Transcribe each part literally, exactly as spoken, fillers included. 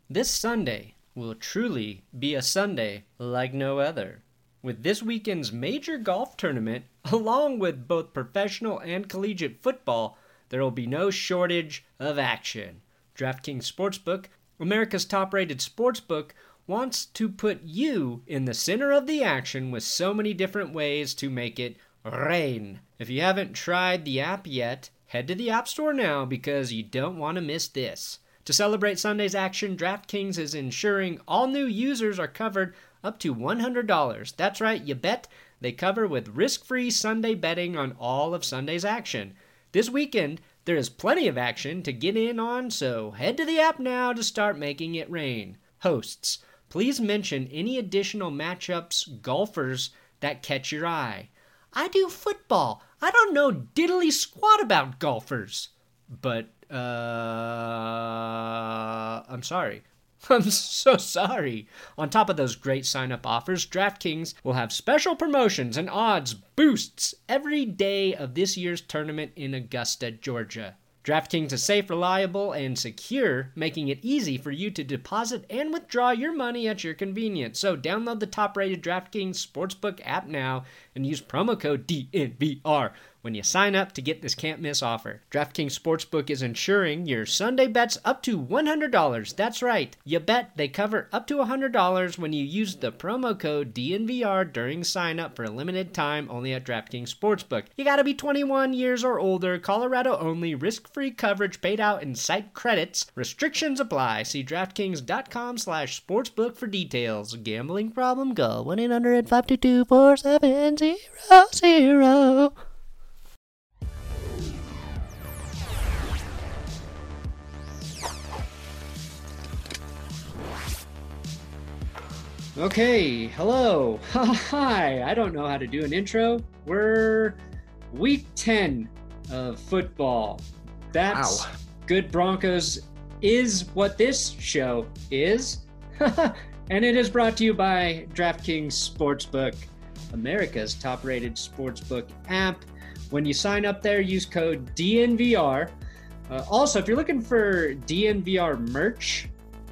This Sunday will truly be a Sunday like no other. With this weekend's major golf tournament, along with both professional and collegiate football, there will be no shortage of action. DraftKings Sportsbook, America's top-rated sportsbook, wants to put you in the center of the action with so many different ways to make it rain. If you haven't tried the app yet, head to the App Store now because you don't want to miss this. To celebrate Sunday's action, DraftKings is ensuring all new users are covered up to one hundred dollars. That's right, you bet. They cover with risk-free Sunday betting on all of Sunday's action. This weekend, there is plenty of action to get in on, so head to the app now to start making it rain. Hosts, please mention any additional matchups, golfers that catch your eye. I do football. I don't know diddly squat about golfers. But, uh, I'm sorry. I'm so sorry. On top of those great sign-up offers, DraftKings will have special promotions and odds boosts every day of this year's tournament in Augusta, Georgia. DraftKings is safe, reliable, and secure, making it easy for you to deposit and withdraw your money at your convenience. So download the top-rated DraftKings Sportsbook app now and use promo code D N V R when you sign up to get this can't-miss offer. DraftKings Sportsbook is insuring your Sunday bets up to one hundred dollars. That's right. You bet they cover up to one hundred dollars when you use the promo code D N V R during sign-up for a limited time only at DraftKings Sportsbook. You gotta be twenty-one years or older, Colorado only, risk-free coverage paid out in site credits. Restrictions apply. See DraftKings.com slash sportsbook for details. Gambling problem? Call one eight hundred five two two four seven zero zero. Okay, hello. Hi, I don't know how to do an intro. We're week ten of football. That's Wow. Good Broncos is what this show is. And it is brought to you by DraftKings Sportsbook, America's top-rated sportsbook app. When you sign up there, use code D N V R. Uh, also, if you're looking for D N V R merch,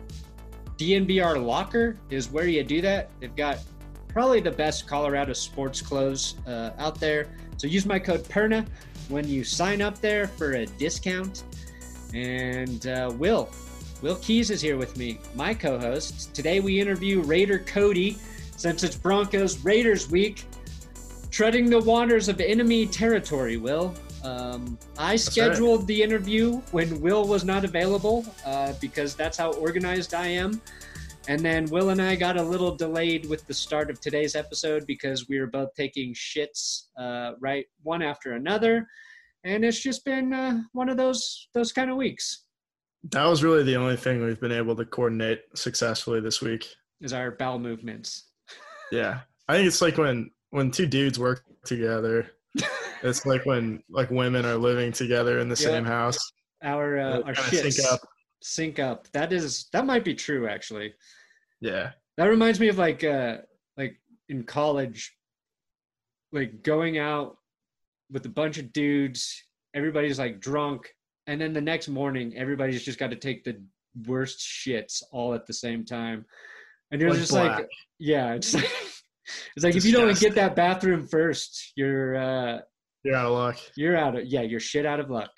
D N V R Locker is where you do that. They've got probably the best Colorado sports clothes uh, out there. So use my code PERNA when you sign up there for a discount. And uh, Will, Will Keys is here with me, my co-host. Today we interview Raider Cody, since it's Broncos Raiders week, treading the waters of enemy territory, Will. Um, I That's scheduled right. the interview when Will was not available uh, because that's how organized I am. And then Will and I got a little delayed with the start of today's episode because we were both taking shits uh, right one after another. And it's just been uh, one of those those kind of weeks. That was really the only thing we've been able to coordinate successfully this week. Is our bowel movements. Yeah. I think it's like when, when two dudes work together, it's like when like women are living together in the Yeah. same house. Our uh, They our kinda shits sync up. sync up. That is that might be true actually. Yeah. That reminds me of like uh like in college, like going out with a bunch of dudes, everybody's like drunk, and then the next morning everybody's just got to take the worst shits all at the same time. And you're Like just black. like, yeah, it's like it's like if you don't Disgusting. get that bathroom first, you're uh You're out of luck. you're out of yeah, you're shit out of luck.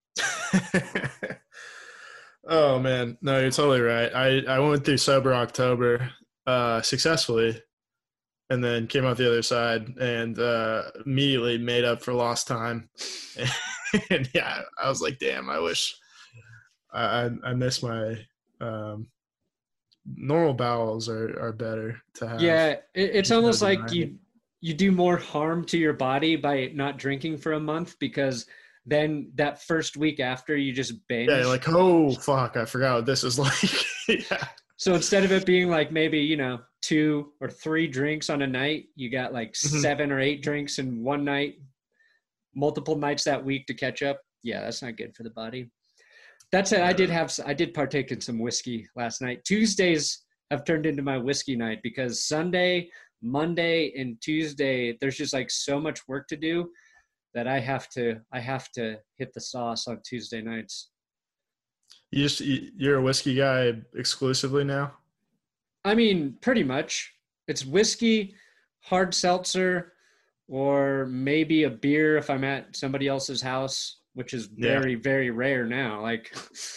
Oh man, no, you're totally right. I, I went through sober October uh, successfully, and then came out the other side and uh, immediately made up for lost time. And yeah, I was like, damn, I wish I I, I miss my um, normal bowels are, are better to have. Yeah, it, it's Just almost no like denying you you do more harm to your body by not drinking for a month because then that first week after you just binge. Yeah, you're like, oh fuck, I forgot what this is like. Yeah. So instead of it being like maybe, you know, two or three drinks on a night, you got like Mhm. seven or eight drinks in one night, multiple nights that week to catch up. Yeah, that's not good for the body. That said, I did have I did partake in some whiskey last night. Tuesdays have turned into my whiskey night because Sunday, Monday, and Tuesday there's just like so much work to do that I have to I have to hit the sauce on Tuesday nights. You just you- you're a whiskey guy exclusively now? I mean, pretty much. It's whiskey, hard seltzer, or maybe a beer if I'm at somebody else's house, which is Yeah, very, very rare now. Like,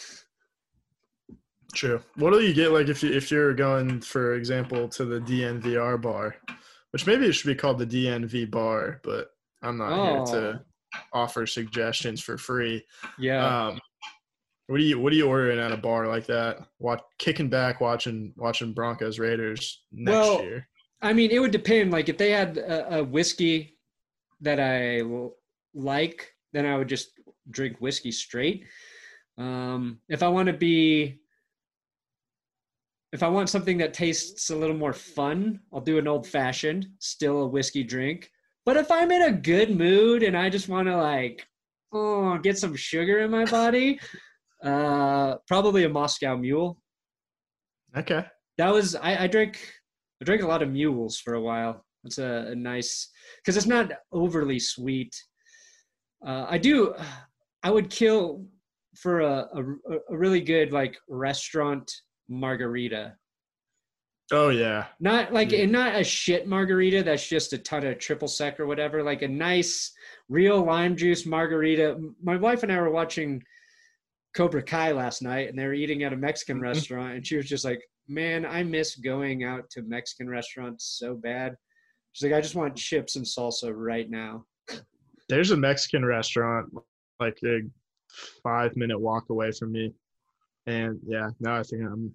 true. What do you get like if you if you're going, for example, to the D N V R bar, which maybe it should be called the D N V bar, but I'm not here oh, to offer suggestions for free. yeah. Um, what do you what are you ordering at a bar like that? Watch kicking back, watching watching Broncos Raiders next Well, year. I mean, it would depend. Like, if they had a, a whiskey that I l- like, then I would just drink whiskey straight. Um, if I want to be, if I want something that tastes a little more fun, I'll do an old fashioned, still a whiskey drink. But if I'm in a good mood and I just want to like, oh, get some sugar in my body, uh, probably a Moscow Mule. Okay. That was I, I drank I drank a lot of mules for a while. It's a, a nice because it's not overly sweet. Uh, I do. I would kill for a, a a really good like restaurant margarita. Oh yeah. Not like Yeah. and not a shit margarita that's just a ton of triple sec or whatever. Like a nice real lime juice margarita. My wife and I were watching Cobra Kai last night, and they were eating at a Mexican restaurant, and she was just like, "Man, I miss going out to Mexican restaurants so bad." She's like, "I just want chips and salsa right now." There's a Mexican restaurant like a five minute walk away from me, and yeah, now I think I'm.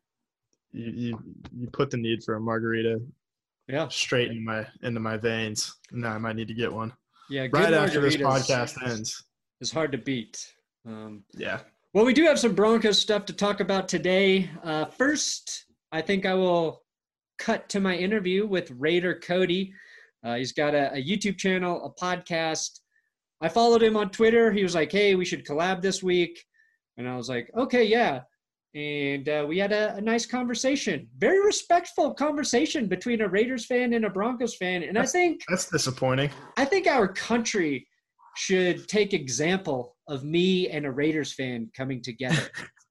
You, you you put the need for a margarita Yeah, straight into my into my veins. Now I might need to get one yeah. Good right after this margaritas podcast ends. is hard to beat. Um, Yeah. well, we do have some Broncos stuff to talk about today. Uh, first, I think I will cut to my interview with Raider Cody. Uh, he's got a, a YouTube channel, a podcast. I followed him on Twitter. He was like, "Hey, we should collab this week," and I was like, "Okay, yeah." And uh, we had a, a nice conversation, very respectful conversation between a Raiders fan and a Broncos fan. And That's, I think that's disappointing. I think our country should take example of me and a Raiders fan coming together.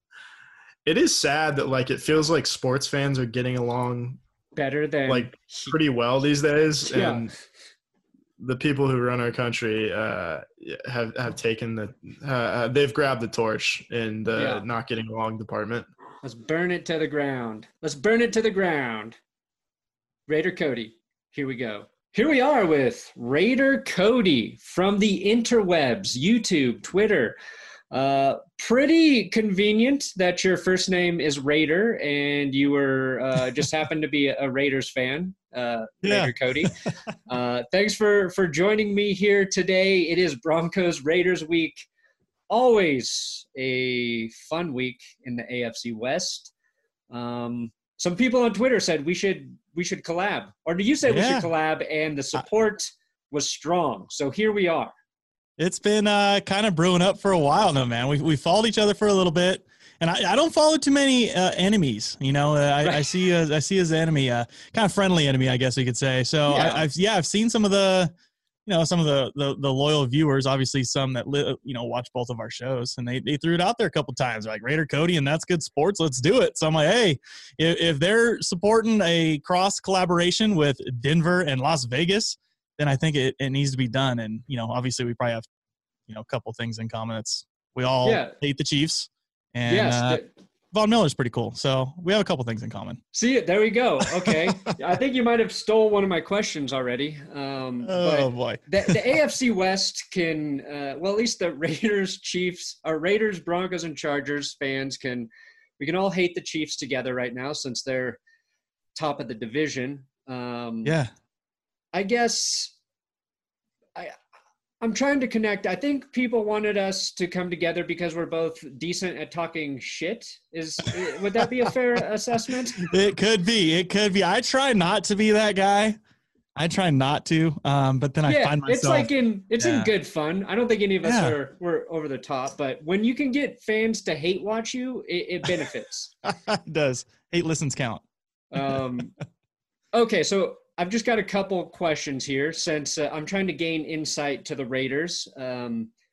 It is sad that like it feels like sports fans are getting along Better than like pretty well these days, Yeah. and the people who run our country uh, have have taken the uh, they've grabbed the torch in the Yeah. not getting along department. Let's burn it to the ground. Let's burn it to the ground. Raider Cody, here we go. Here we are with Raider Cody from the interwebs, YouTube, Twitter. Uh, pretty convenient that your first name is Raider and you were uh, just happened to be a, a Raiders fan, uh, Yeah. Raider Cody. Uh, thanks for for joining me here today. It is Broncos Raiders week. Always a fun week in the A F C West. Um, some people on Twitter said we should we should collab, or do you say we Yeah. should collab? And the support was strong, so here we are. It's been uh, kind of brewing up for a while now, man. We we followed each other for a little bit, and I, I don't follow too many uh, enemies. You know, uh, I, Right. I see a, I see as an enemy, uh, kind of friendly enemy, I guess we could say. So Yeah. I, I've yeah, I've seen some of the, you know, some of the the, the loyal viewers. Obviously, some that li- you know watch both of our shows, and they they threw it out there a couple times, like Raider Cody, and that's good sports. Let's do it. So I'm like, hey, if, if they're supporting a cross collaboration with Denver and Las Vegas, then I think it, it needs to be done. And you know, obviously, we probably have you know, a couple things in common. It's we all Yeah. hate the Chiefs, and Yes. uh, th- Von Miller's pretty cool. So we have a couple things in common. see it. There we go. Okay. I think you might have stole one of my questions already. Um, Oh but boy, the, the A F C West can, uh, well, at least the Raiders, Chiefs, or Raiders, Broncos, and Chargers fans can, we can all hate the Chiefs together right now since they're top of the division. Um, yeah, I guess I, I'm trying to connect. I think people wanted us to come together because we're both decent at talking shit. Is would that be a fair assessment? it could be. It could be. I try not to be that guy. I try not to, um, but then I Yeah, find myself. it's like in it's in Yeah. good fun. I don't think any of us Yeah. are we're over the top, but when you can get fans to hate watch you, it, it benefits. it does. Eight listens count. Um, okay, so I've just got a couple questions here since uh, I'm trying to gain insight to the Raiders. Um,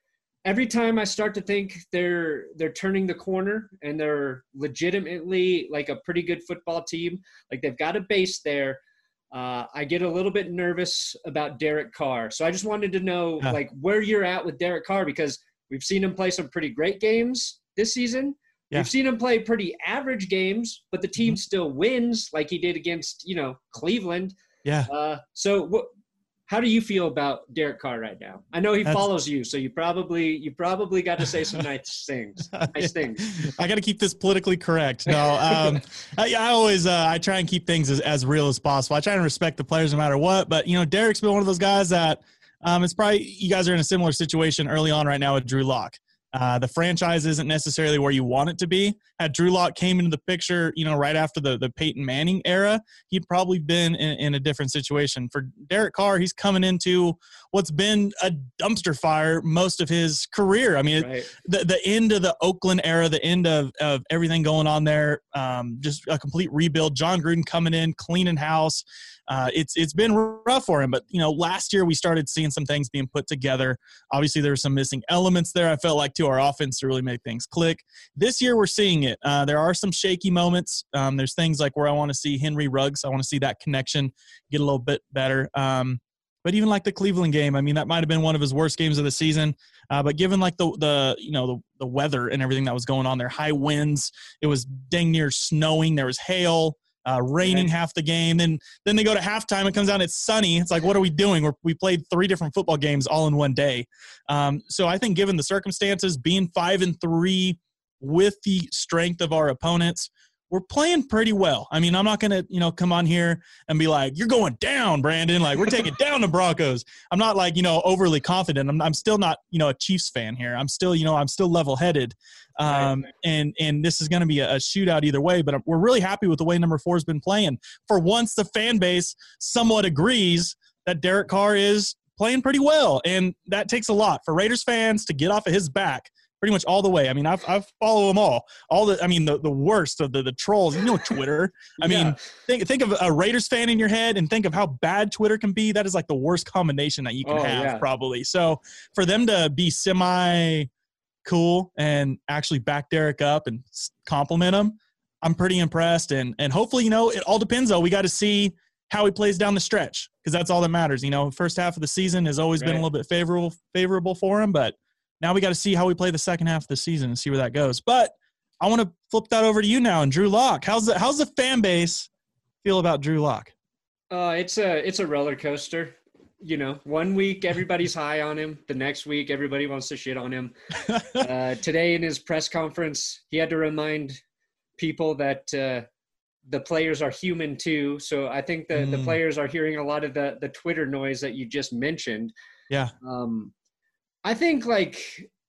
every time I start to think they're they're turning the corner and they're legitimately like a pretty good football team, like they've got a base there, uh, I get a little bit nervous about Derek Carr. So I just wanted to know Yeah. like where you're at with Derek Carr, because we've seen him play some pretty great games this season. Yeah. We've seen him play pretty average games, but the team mm-hmm. still wins like he did against, you know, Cleveland. Yeah. Uh, so what? How do you feel about Derek Carr right now? I know he That's, follows you, so you probably you probably got to say some nice things. Nice things. I got to keep this politically correct. No, um, I, I always uh, I try and keep things as, as real as possible. I try and respect the players no matter what. But you know, Derek's been one of those guys that um, it's probably you guys are in a similar situation early on right now with Drew Lock. Uh, the franchise isn't necessarily where you want it to be. Had Drew Lock came into the picture, you know, right after the, the Peyton Manning era, he'd probably been in, in a different situation. For Derek Carr, he's coming into what's been a dumpster fire most of his career. I mean, right. the, the end of the Oakland era, the end of, of everything going on there, um, just a complete rebuild. John Gruden coming in, cleaning house. Uh, it's it's been rough for him, but you know, last year we started seeing some things being put together. Obviously, there were some missing elements there. I felt like to our offense to really make things click. This year, we're seeing it. Uh, there are some shaky moments. Um, there's things like where I want to see Henry Ruggs. I want to see that connection get a little bit better. Um, but even like the Cleveland game, I mean, that might have been one of his worst games of the season. Uh, but given like the the you know the the weather and everything that was going on there, high winds, it was dang near snowing. There was hail. Uh, raining half the game. Then then they go to halftime. It comes out. It's sunny. It's like, what are we doing? We're, we played three different football games all in one day. Um, so I think given the circumstances, being five and three with the strength of our opponents, we're playing pretty well. I mean, I'm not going to, you know, come on here and be like, you're going down, Brandon. Like, we're taking down the Broncos. I'm not like, you know, overly confident. I'm, I'm still not, you know, a Chiefs fan here. I'm still, you know, I'm still level-headed. Um, right. and, and this is going to be a, a shootout either way, but we're really happy with the way number four has been playing. For once, the fan base somewhat agrees that Derek Carr is playing pretty well. And that takes a lot for Raiders fans to get off of his back pretty much all the way. I mean, I've, I follow them all. All the, I mean, the, the worst of the, the trolls, you know, Twitter. I yeah. mean, think think of a Raiders fan in your head and think of how bad Twitter can be. That is like the worst combination that you can oh, have yeah. probably. So for them to be semi cool and actually back Derek up and compliment him, I'm pretty impressed. And, and hopefully, you know, it all depends though. We got to see how he plays down the stretch because that's all that matters. You know, first half of the season has always right. been a little bit favorable, favorable for him, but now we got to see how we play the second half of the season and see where that goes. But I want to flip that over to you now and Drew Lock. How's the how's the fan base feel about Drew Lock? Uh, it's a it's a roller coaster. You know, one week everybody's high on him. The next week everybody wants to shit on him. uh, today in his press conference, he had to remind people that uh, the players are human too. So I think the mm. the players are hearing a lot of the the Twitter noise that you just mentioned. Yeah. Um. I think, like,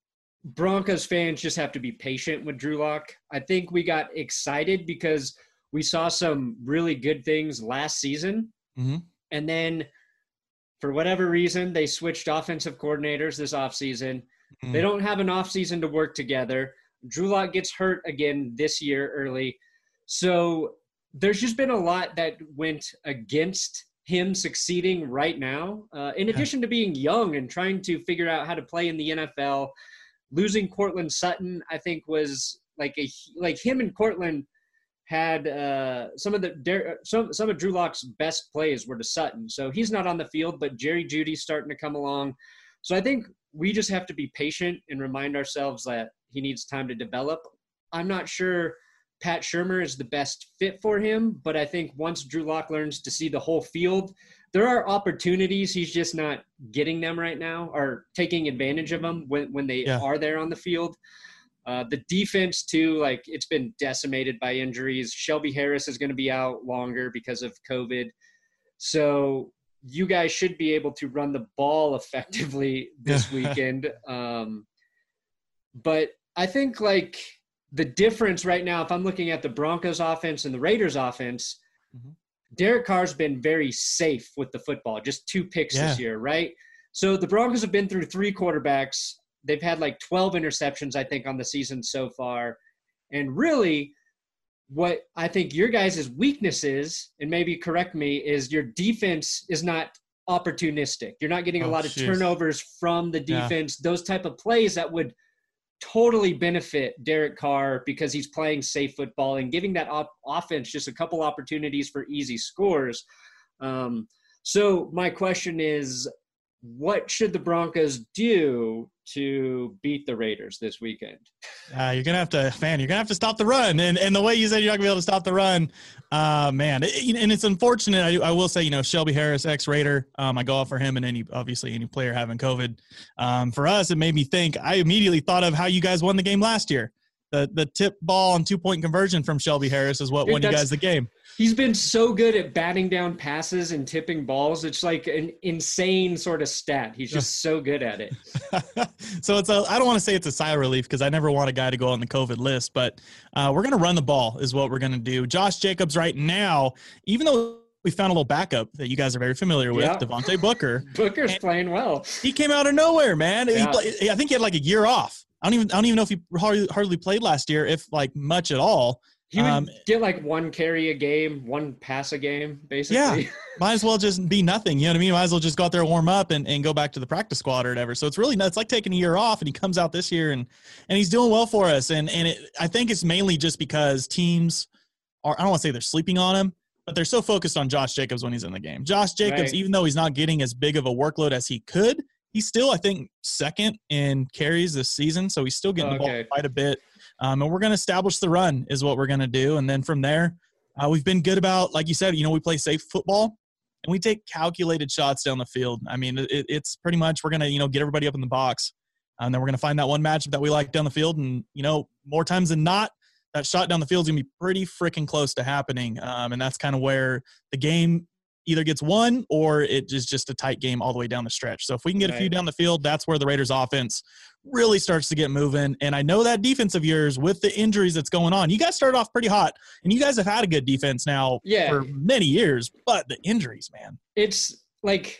Broncos fans just have to be patient with Drew Lock. I think we got excited because we saw some really good things last season. Mm-hmm. And then, for whatever reason, they switched offensive coordinators this offseason. Mm-hmm. They don't have an offseason to work together. Drew Lock gets hurt again this year early. So there's just been a lot that went against him succeeding right now, uh, in addition to being young and trying to figure out how to play in the N F L. Losing Courtland Sutton, I think, was like a like him and Courtland had uh, some of the some some of Drew Lock's best plays were to Sutton. So he's not on the field, but Jerry Jeudy's starting to come along. So I think we just have to be patient and remind ourselves that he needs time to develop. I'm not sure Pat Shurmur is the best fit for him, but I think once Drew Lock learns to see the whole field, there are opportunities. He's just not getting them right now or taking advantage of them when, when they yeah. are there on the field. Uh, the defense, too, like it's been decimated by injuries. Shelby Harris is going to be out longer because of COVID. So you guys should be able to run the ball effectively this weekend. Um, but I think, like, the difference right now, if I'm looking at the Broncos offense and the Raiders offense, mm-hmm. Derek Carr's been very safe with the football, just two picks yeah. this year, right? So the Broncos have been through three quarterbacks. They've had like twelve interceptions, I think, on the season so far. And really what I think your guys' weakness is, and maybe correct me, is your defense is not opportunistic. You're not getting a Oh, lot of jeez. turnovers from the Yeah. defense, those type of plays that would totally benefit Derek Carr because he's playing safe football and giving that op- offense just a couple opportunities for easy scores. Um, so my question is, what should the Broncos do to beat the Raiders this weekend? Uh, you're gonna have to, man. You're gonna have to stop the run, and and the way you said you're not gonna be able to stop the run, uh, man. It, and it's unfortunate. I, I will say, you know, Shelby Harris, ex-Raider. Um, I go off for him and any obviously any player having COVID. Um, for us, it made me think. I immediately thought of how you guys won the game last year. The the tip ball and two point conversion from Shelby Harris is what Dude, won you guys the game. He's been so good at batting down passes and tipping balls. It's like an insane sort of stat. He's just so good at it. So it's a, I don't want to say it's a sigh of relief because I never want a guy to go on the COVID list, but uh, we're going to run the ball is what we're going to do. Josh Jacobs right now, even though we found a little backup that you guys are very familiar with, Yeah. Devontae Booker. Booker's And playing well. He came out of nowhere, man. Yeah. He play, I think he had like a year off. I don't even I don't even know if he hardly, hardly played last year, if like much at all. He would Um, get like one carry a game, one pass a game, basically. Yeah. Might as well just be nothing. You know what I mean? Might as well just go out there, warm up, and, and go back to the practice squad or whatever. So it's really nuts. It's like taking a year off, and he comes out this year, and and he's doing well for us. And and it, I think it's mainly just because teams are, I don't want to say they're sleeping on him, but they're so focused on Josh Jacobs when he's in the game. Josh Jacobs, Right. even though he's not getting as big of a workload as he could, he's still, I think, second in carries this season. So he's still getting the ball Okay. quite a bit. Um, and we're going to establish the run is what we're going to do. And then from there, uh, we've been good about, like you said, you know, we play safe football and we take calculated shots down the field. I mean, it, it's pretty much we're going to, you know, get everybody up in the box. And then we're going to find that one matchup that we like down the field. And, you know, more times than not, that shot down the field is going to be pretty freaking close to happening. Um, and that's kind of where the game either gets won or it is just a tight game all the way down the stretch. So if we can get a few Right. down the field, that's where the Raiders offense really starts to get moving. And I know that defense of yours with the injuries that's going on, you guys started off pretty hot and you guys have had a good defense now Yeah. for many years, but the injuries, man. It's like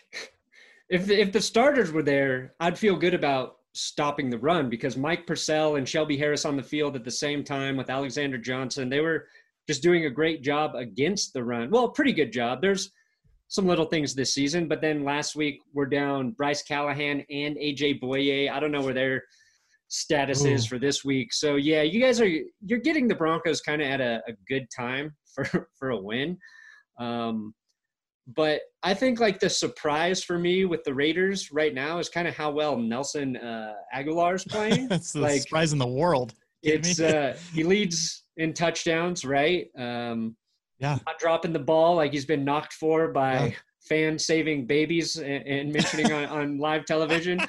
if the, if the starters were there, I'd feel good about stopping the run because Mike Purcell and Shelby Harris on the field at the same time with Alexander Johnson, they were just doing a great job against the run. Well, pretty good job. There's some little things this season, but then last week we're down Bryce Callahan and A J Boye. I don't know where their status Ooh. is for this week. So yeah, you guys are, you're getting the Broncos kind of at a, a good time for, for a win. Um, but I think like the surprise for me with the Raiders right now is kind of how well Nelson uh, Aguilar's playing. That's the Like, surprise in the world. Kidding It's me? uh, he leads in touchdowns, right? Um, Yeah. not dropping the ball like he's been knocked for by Yeah. fans saving babies and, and mentioning on, on live television.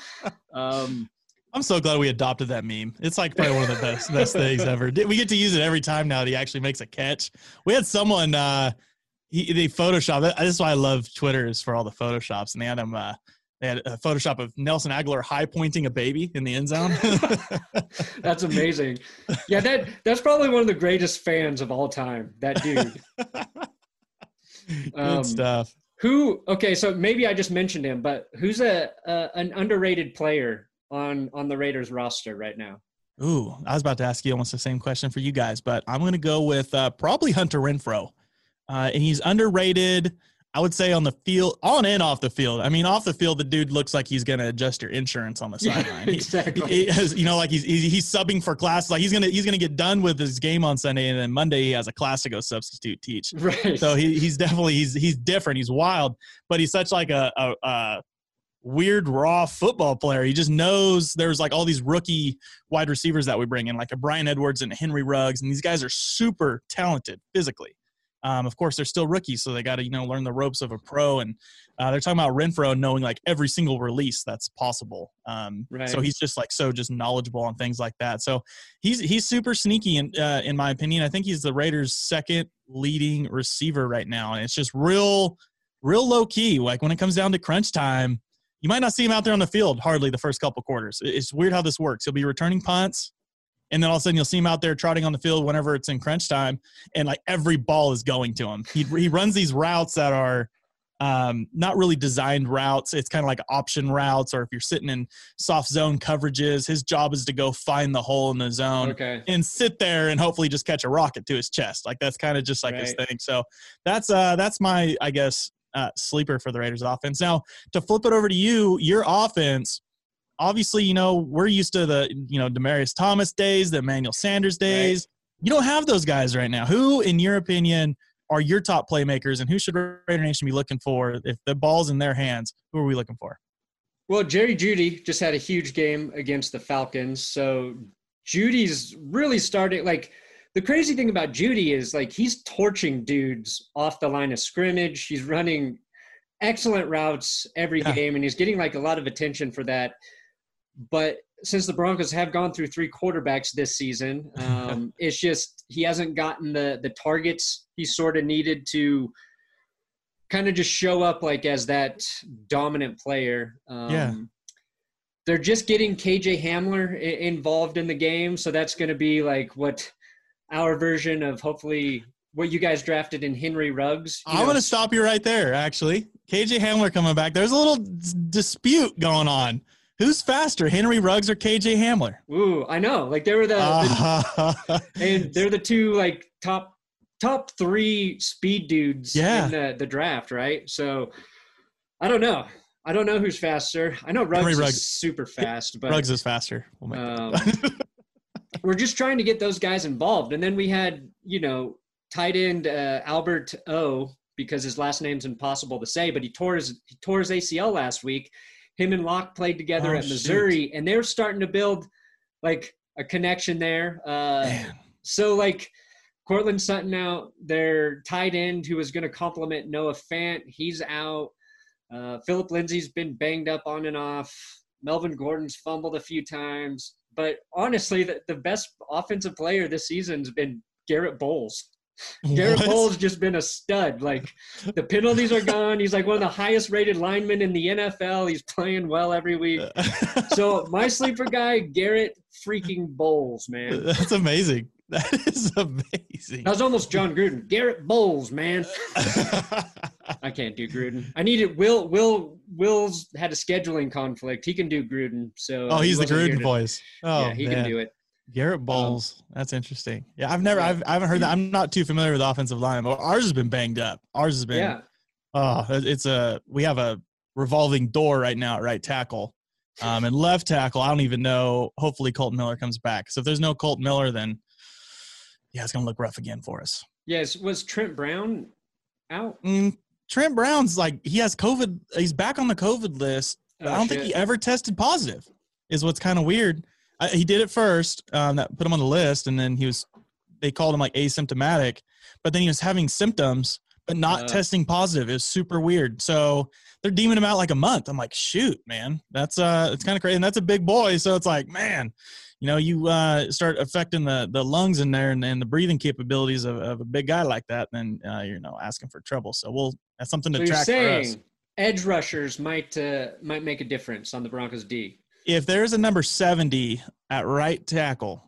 Um, I'm so glad we adopted that meme. It's like probably one of the best best things ever. We get to use it every time now that he actually makes a catch. We had someone uh he they Photoshop. This is why I love Twitter is for all the Photoshops. And they had him uh they had a Photoshop of Nelson Aguilar high pointing a baby in the end zone. that's amazing. Yeah, that that's probably one of the greatest fans of all time. That dude. Good Um, stuff. Who? Okay, so maybe I just mentioned him, but who's a, a an underrated player on on the Raiders roster right now? Ooh, I was about to ask you almost the same question for you guys, but I'm going to go with uh, probably Hunter Renfrow. Uh, and he's underrated, I would say, on the field, on and off the field. I mean, off the field, the dude looks like he's going to adjust your insurance on the Yeah, sideline. He- exactly. He, he has, you know, like he's, he's he's subbing for class. Like he's gonna he's gonna get done with his game on Sunday, and then Monday he has a class to go substitute teach. Right. So he he's definitely he's he's different. He's wild, but he's such like a, a, a weird raw football player. He just knows there's like all these rookie wide receivers that we bring in, like a Brian Edwards and a Henry Ruggs, and these guys are super talented physically. Um, of course, they're still rookies, so they got to you know learn the ropes of a pro. And uh, they're talking about Renfrow knowing like every single release that's possible. Um, Right. So he's just like so just knowledgeable on things like that. So he's he's super sneaky in uh, in my opinion. I think he's the Raiders' second leading receiver right now, and it's just real real low key. Like when it comes down to crunch time, you might not see him out there on the field hardly the first couple quarters. It's weird how this works. He'll be returning punts, and then all of a sudden you'll see him out there trotting on the field whenever it's in crunch time, and like every ball is going to him. He he runs these routes that are um, not really designed routes. It's kind of like option routes, or if you're sitting in soft zone coverages, his job is to go find the hole in the zone Okay. and sit there and hopefully just catch a rocket to his chest. Like that's kind of just like his Right. thing. So that's uh that's my I guess uh, sleeper for the Raiders offense. Now, to flip it over to you, your offense, obviously, you know, we're used to the, you know, Demaryius Thomas days, the Emmanuel Sanders days. Right. You don't have those guys right now. Who, in your opinion, are your top playmakers, and who should Raider Nation be looking for? If the ball's in their hands, who are we looking for? Well, Jerry Jeudy just had a huge game against the Falcons. So Judy's really starting – like, the crazy thing about Jeudy is, like, he's torching dudes off the line of scrimmage. He's running excellent routes every yeah. game, and he's getting, like, a lot of attention for that. But since the Broncos have gone through three quarterbacks this season, um, it's just he hasn't gotten the the targets he sort of needed to kind of just show up like as that dominant player. Um, yeah. They're just getting K J Hamler I- involved in the game, so that's going to be like what our version of hopefully what you guys drafted in Henry Ruggs. I'm going to stop you right there, actually. K J Hamler coming back. There's a little d- dispute going on. Who's faster, Henry Ruggs or K J Hamler? Ooh, I know. Like they were the, the and they're the two like top top three speed dudes yeah. in the, the draft, right? So I don't know. I don't know who's faster. I know Ruggs, Ruggs. is super fast, but Ruggs is faster. We'll make um, we're just trying to get those guys involved. And then we had, you know, tight end uh, Albert O, because his last name's impossible to say, but he tore his he tore his A C L last week. Him and Locke played together oh, at Missouri, shoot. and they're starting to build like a connection there. Uh, so like Cortland Sutton out, their tight end who was going to complement Noah Fant, he's out. Uh, Philip Lindsay's been banged up on and off. Melvin Gordon's fumbled a few times. But honestly, the, the best offensive player this season has been Garrett Bowles. Garrett Bowles just been a stud. Like the penalties are gone. He's like one of the highest rated linemen in the N F L. He's playing well every week. So my sleeper guy, Garrett freaking Bowles, man. That's amazing. That is amazing. That was almost John Gruden. Garrett Bowles, man. I can't do Gruden. I needed Will. Will. Will's had a scheduling conflict. He can do Gruden. So oh, he's he the Gruden voice. Oh, yeah, he man. can do it. Garrett Bowles. Um, That's interesting. Yeah, I've never, I've, I haven't heard that. I'm not too familiar with offensive line, but ours has been banged up. Ours has been, yeah. Oh, it's a, we have a revolving door right now at right tackle. Um, and left tackle, I don't even know. Hopefully Colton Miller comes back. So if there's no Colton Miller, then yeah, it's going to look rough again for us. Yes. Was Trent Brown out? Mm, Trent Brown's like, he has COVID. He's back on the COVID list. Oh, I don't shit. think he ever tested positive is what's kind of weird. I, he did it first, um, that put him on the list, and then he was – they called him, like, asymptomatic. But then he was having symptoms but not uh, testing positive. It was super weird. So they're deeming him out like a month. I'm like, shoot, man. That's uh, it's kind of crazy. And that's a big boy. So it's like, man, you know, you uh, start affecting the the lungs in there and, and the breathing capabilities of, of a big guy like that, then, uh, you know, asking for trouble. So we'll – that's something to so track you're saying for us. Edge rushers might uh, might make a difference on the Broncos D. If there's a number seventy at right tackle,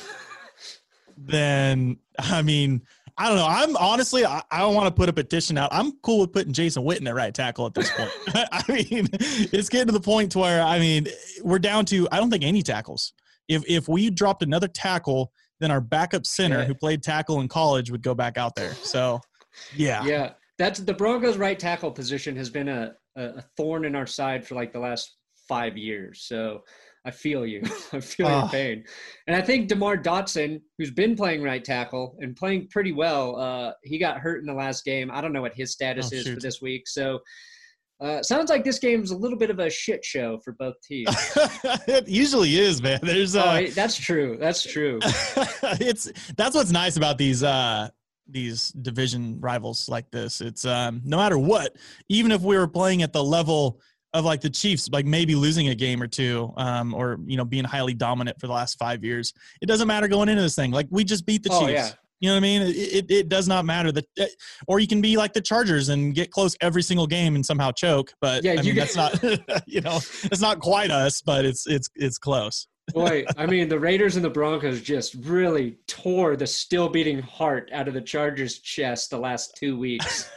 then, I mean, I don't know. I'm honestly, I, I don't want to put a petition out. I'm cool with putting Jason Witten at right tackle at this point. I mean, it's getting to the point to where, I mean, we're down to, I don't think any tackles. If if we dropped another tackle, then our backup center yeah. who played tackle in college would go back out there. So, yeah. Yeah. That's the Broncos right tackle position has been a, a thorn in our side for like the last five years. So I feel you. I feel oh. your pain. And I think DeMar Dotson, who's been playing right tackle and playing pretty well, uh, he got hurt in the last game. I don't know what his status oh, is shoot. for this week. So uh, sounds like this game's a little bit of a shit show for both teams. It usually is, man. There's uh, oh, that's true. That's true. it's that's what's nice about these uh, these division rivals like this. It's um, no matter what, even if we were playing at the level of like the Chiefs, like maybe losing a game or two, um, or, you know, being highly dominant for the last five years. It doesn't matter going into this thing. Like we just beat the oh, Chiefs. Yeah. You know what I mean? It, it, it does not matter that, or you can be like the Chargers and get close every single game and somehow choke. But yeah, I mean, you that's not, you know, it's not quite us, but it's, it's, it's close. Boy, I mean, the Raiders and the Broncos just really tore the still beating heart out of the Chargers' chest the last two weeks.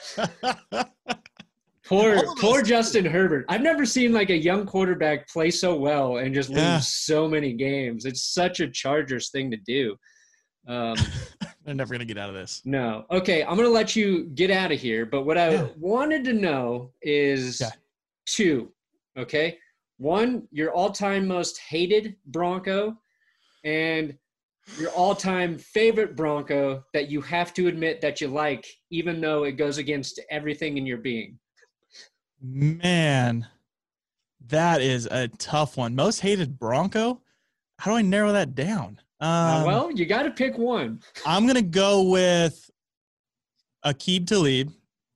Poor, poor Justin Herbert. I've never seen like a young quarterback play so well and just lose yeah. so many games. It's such a Chargers thing to do. Um, They're never gonna get out of this. No. Okay, I'm gonna let you get out of here. But what I Yeah. wanted to know is Yeah. two. Okay, one, your all-time most hated Bronco, and your all-time favorite Bronco that you have to admit that you like, even though it goes against everything in your being. Man, that is a tough one. Most hated Bronco. How do I narrow that down? Um, Uh, well, you got to pick one. I'm gonna go with Aqib Talib.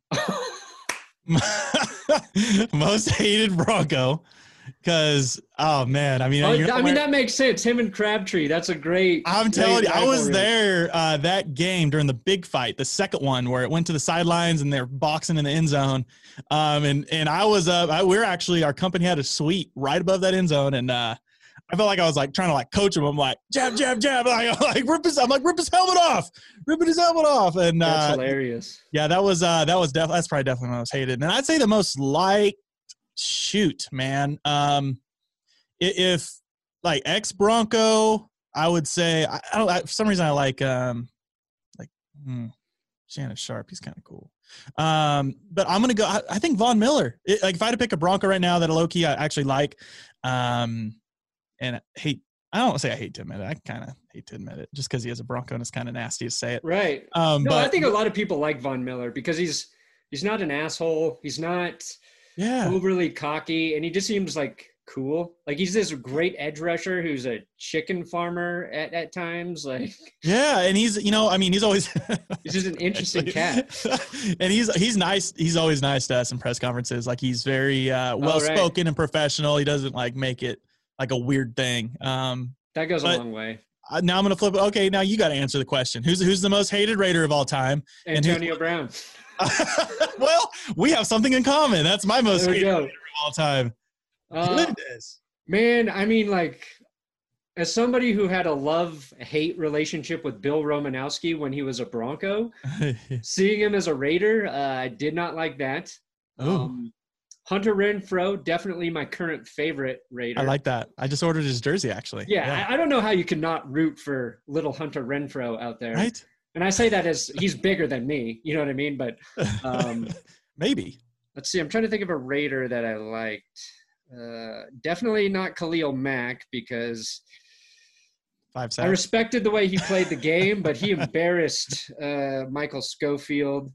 Most hated Bronco, because oh man, I mean, Oh, you know I mean where- that makes sense. Him and Crabtree. That's a great. I'm great telling you, I was rivalry. there uh, that game during the big fight, the second one where it went to the sidelines and they're boxing in the end zone. Um, and and I was up. I, we we're actually our company had a suite right above that end zone, and uh, I felt like I was like trying to like coach him. I'm like jab, jab, jab. Like, like rip his. I'm like rip his helmet off, ripping his helmet off. And That's uh, hilarious. yeah, that was uh, that was definitely that's probably definitely the most hated. And I'd say the most liked. Shoot, man. Um, i- if like ex Bronco, I would say I, I don't. I, for some reason, I like um, like hmm, Shannon Sharp. He's kind of cool. Um, but I'm gonna go. I, I think Von Miller. It, like if I had to pick a Bronco right now that a low key I actually like, um, and I hate. I don't say I hate to admit it. I kind of hate to admit it, just because he has a Bronco and it's kind of nasty to say it. Right. Um, No, but I think a lot of people like Von Miller because he's he's not an asshole. He's not yeah, overly cocky, and he just seems like cool. Like he's this great edge rusher who's a chicken farmer at, at times. Like yeah, and he's you know I mean he's always he's just an interesting cat. and he's he's nice. He's always nice to us in press conferences. Like he's very uh, well spoken and professional. He doesn't like make it like a weird thing. Um, That goes but- a long way. uh, now I'm gonna flip it. Okay, now you got to answer the question. Who's who's the most hated Raider of all time? And who's- Antonio Brown. Well, we have something in common. That's my most There we hated go. Raider of all time. Uh, Goodness. man, I mean, like, as somebody who had a love-hate relationship with Bill Romanowski when he was a Bronco, seeing him as a Raider, uh, I did not like that. Ooh. Um, Hunter Renfro, definitely my current favorite Raider. I like that. I just ordered his jersey actually. Yeah, I, I don't know how you can not root for little Hunter Renfro out there. right. And I say that as he's bigger than me. You know what I mean? But um, Maybe. let's see. I'm trying to think of a Raider that I liked. Uh, definitely not Khalil Mack because Five I seconds. respected the way he played the game, but he embarrassed uh, Michael Schofield.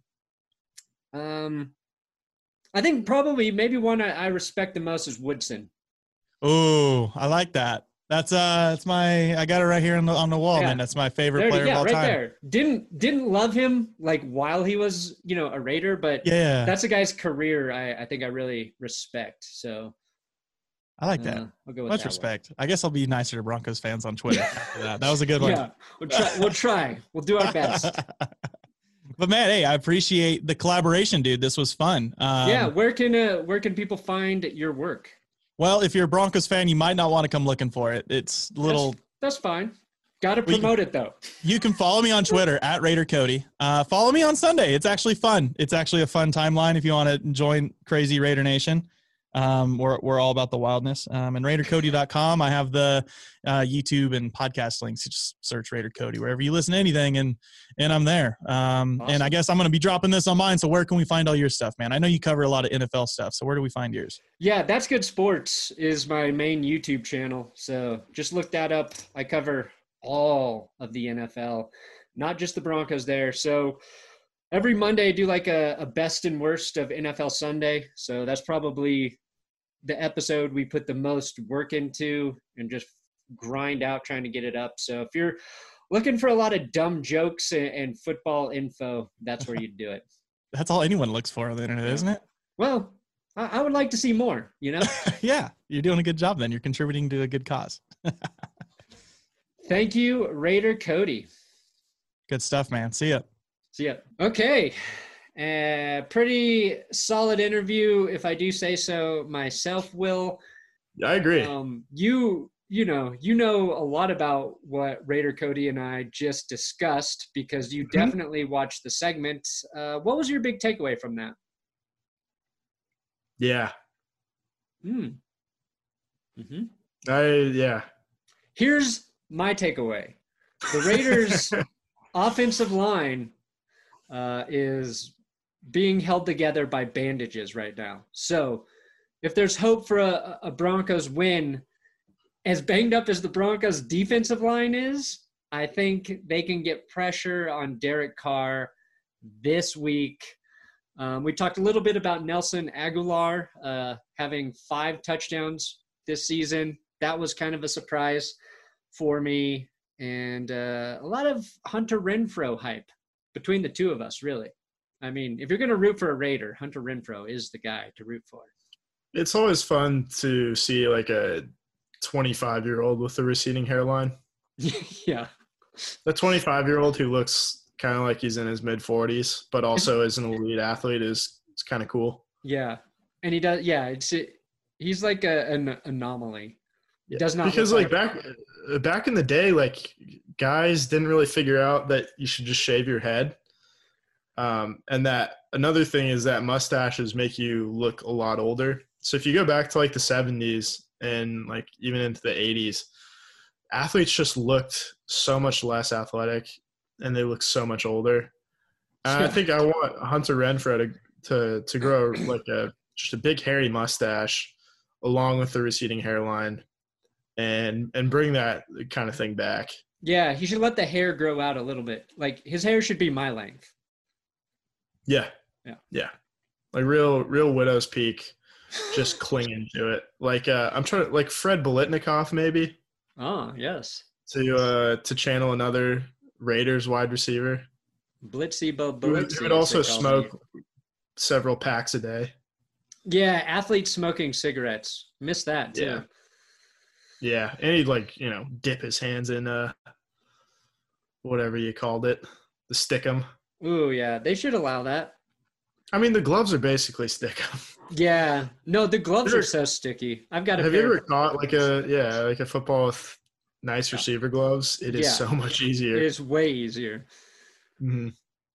Um, I think probably maybe one I, I respect the most is Woodson. Oh, I like that. That's uh, that's my. I got it right here on the on the wall, Yeah. man. That's my favorite There, player yeah, of all right time. there. Didn't didn't love him like while he was you know a Raider, but Yeah, that's a guy's career. I, I think I really respect. So I like that. uh, I'll go with Much that one. respect. I guess I'll be nicer to Broncos fans on Twitter after that. That was a good one. Yeah, we'll try. We'll try. We'll do our best. But man, hey, I appreciate the collaboration, dude. This was fun. Um, yeah. Where can uh, where can people find your work? Well, if you're a Broncos fan, you might not want to come looking for it. It's little. That's, that's fine. Got to We- promote it though. You can follow me on Twitter at Raider Cody. Uh, follow me on Sunday. It's actually fun. It's actually a fun timeline if you want to join Crazy Raider Nation. Um, we're we're all about the wildness. Um, and Raider Cody dot com. I have the uh, YouTube and podcast links. You just search Raider Cody wherever you listen to anything, and and I'm there. Um, And I Awesome. guess I'm going to be dropping this on mine. So where can we find all your stuff, man? I know you cover a lot of N F L stuff. So where do we find yours? Yeah, That's Good Sports is my main YouTube channel. So just look that up. I cover all of the N F L, not just the Broncos there. So every Monday I do like a, a best and worst of N F L Sunday. So that's probably the episode we put the most work into and just grind out trying to get it up. So if you're looking for a lot of dumb jokes and, and football info, that's where you do it. That's all anyone looks for on the internet, isn't it? Well, I, I would like to see more, you know? Yeah, you're doing a good job then. You're contributing to a good cause. Thank you, Raider Cody. Good stuff, man. See ya. See ya. Okay. Uh, pretty solid interview, if I do say so myself, Will. I agree. Um, you, you know, you know a lot about what Raider Cody and I just discussed because you Mhm. definitely watched the segment. Uh, what was your big takeaway from that? yeah. Hmm. Mm-hmm. I yeah. Here's my takeaway. The Raiders offensive line uh, is being held together by bandages right now. So if there's hope for a, a Broncos win, as banged up as the Broncos defensive line is, I think they can get pressure on Derek Carr this week. Um, we talked a little bit about Nelson Aguilar uh, having five touchdowns this season. That was kind of a surprise for me. And uh, a lot of Hunter Renfrow hype between the two of us, really. I mean, if you're going to root for a Raider, Hunter Renfrow is the guy to root for. It's always fun to see like a twenty-five-year-old with a receding hairline. Yeah. The twenty-five-year-old who looks kind of like he's in his mid-forties, but also is an elite athlete is, is kind of cool. Yeah. And he does – yeah, it's he's like a, an anomaly. Yeah. Does not because like, like back back in the day, like guys didn't really figure out that you should just shave your head. Um, and that another thing is that mustaches make you look a lot older. So if you go back to like the seventies and like even into the eighties, athletes just looked so much less athletic and they look so much older. And I think I want Hunter Renfrow to to to grow like a just a big hairy mustache along with the receding hairline and and bring that kind of thing back. Yeah, he should let the hair grow out a little bit. Like his hair should be my length. Yeah. Yeah. Yeah. Like real real widow's peak, just clinging to it. Like uh I'm trying to like Fred Biletnikoff maybe. Oh, yes. To uh to channel another Raiders wide receiver. Blitzy Bo Who would, Blitzy. who would also smoke several packs a day. Yeah, athletes smoking cigarettes. Missed that too. Yeah. Yeah. And he'd like, you know, dip his hands in uh whatever you called it. The stickum. Ooh, yeah. They should allow that. I mean the gloves are basically stickum. Yeah. No, the gloves are so sticky. I've got a Have pair you ever of- caught like a yeah, like a football with nice receiver gloves? It is Yeah. so much easier. It is way easier. Mm-hmm.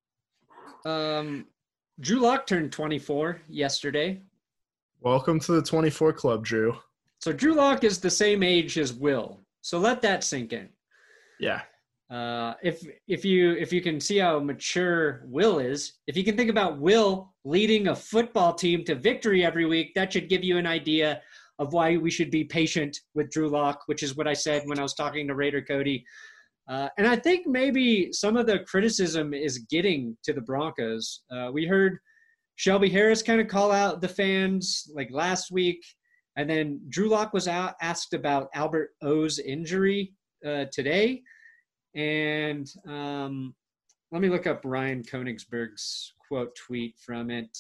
Um, Drew Lock turned twenty-four yesterday. Welcome to the twenty-four Club, Drew. So Drew Lock is the same age as Will. So let that sink in. Yeah. Uh, if if you if you can see how mature Will is, if you can think about Will leading a football team to victory every week, that should give you an idea of why we should be patient with Drew Lock, which is what I said when I was talking to Raider Cody. Uh, and I think maybe some of the criticism is getting to the Broncos. Uh, we heard Shelby Harris kind of call out the fans like last week, and then Drew Lock was out, asked about Albert O's injury uh, today. And um, let me look up Ryan Koenigsberg's quote tweet from it.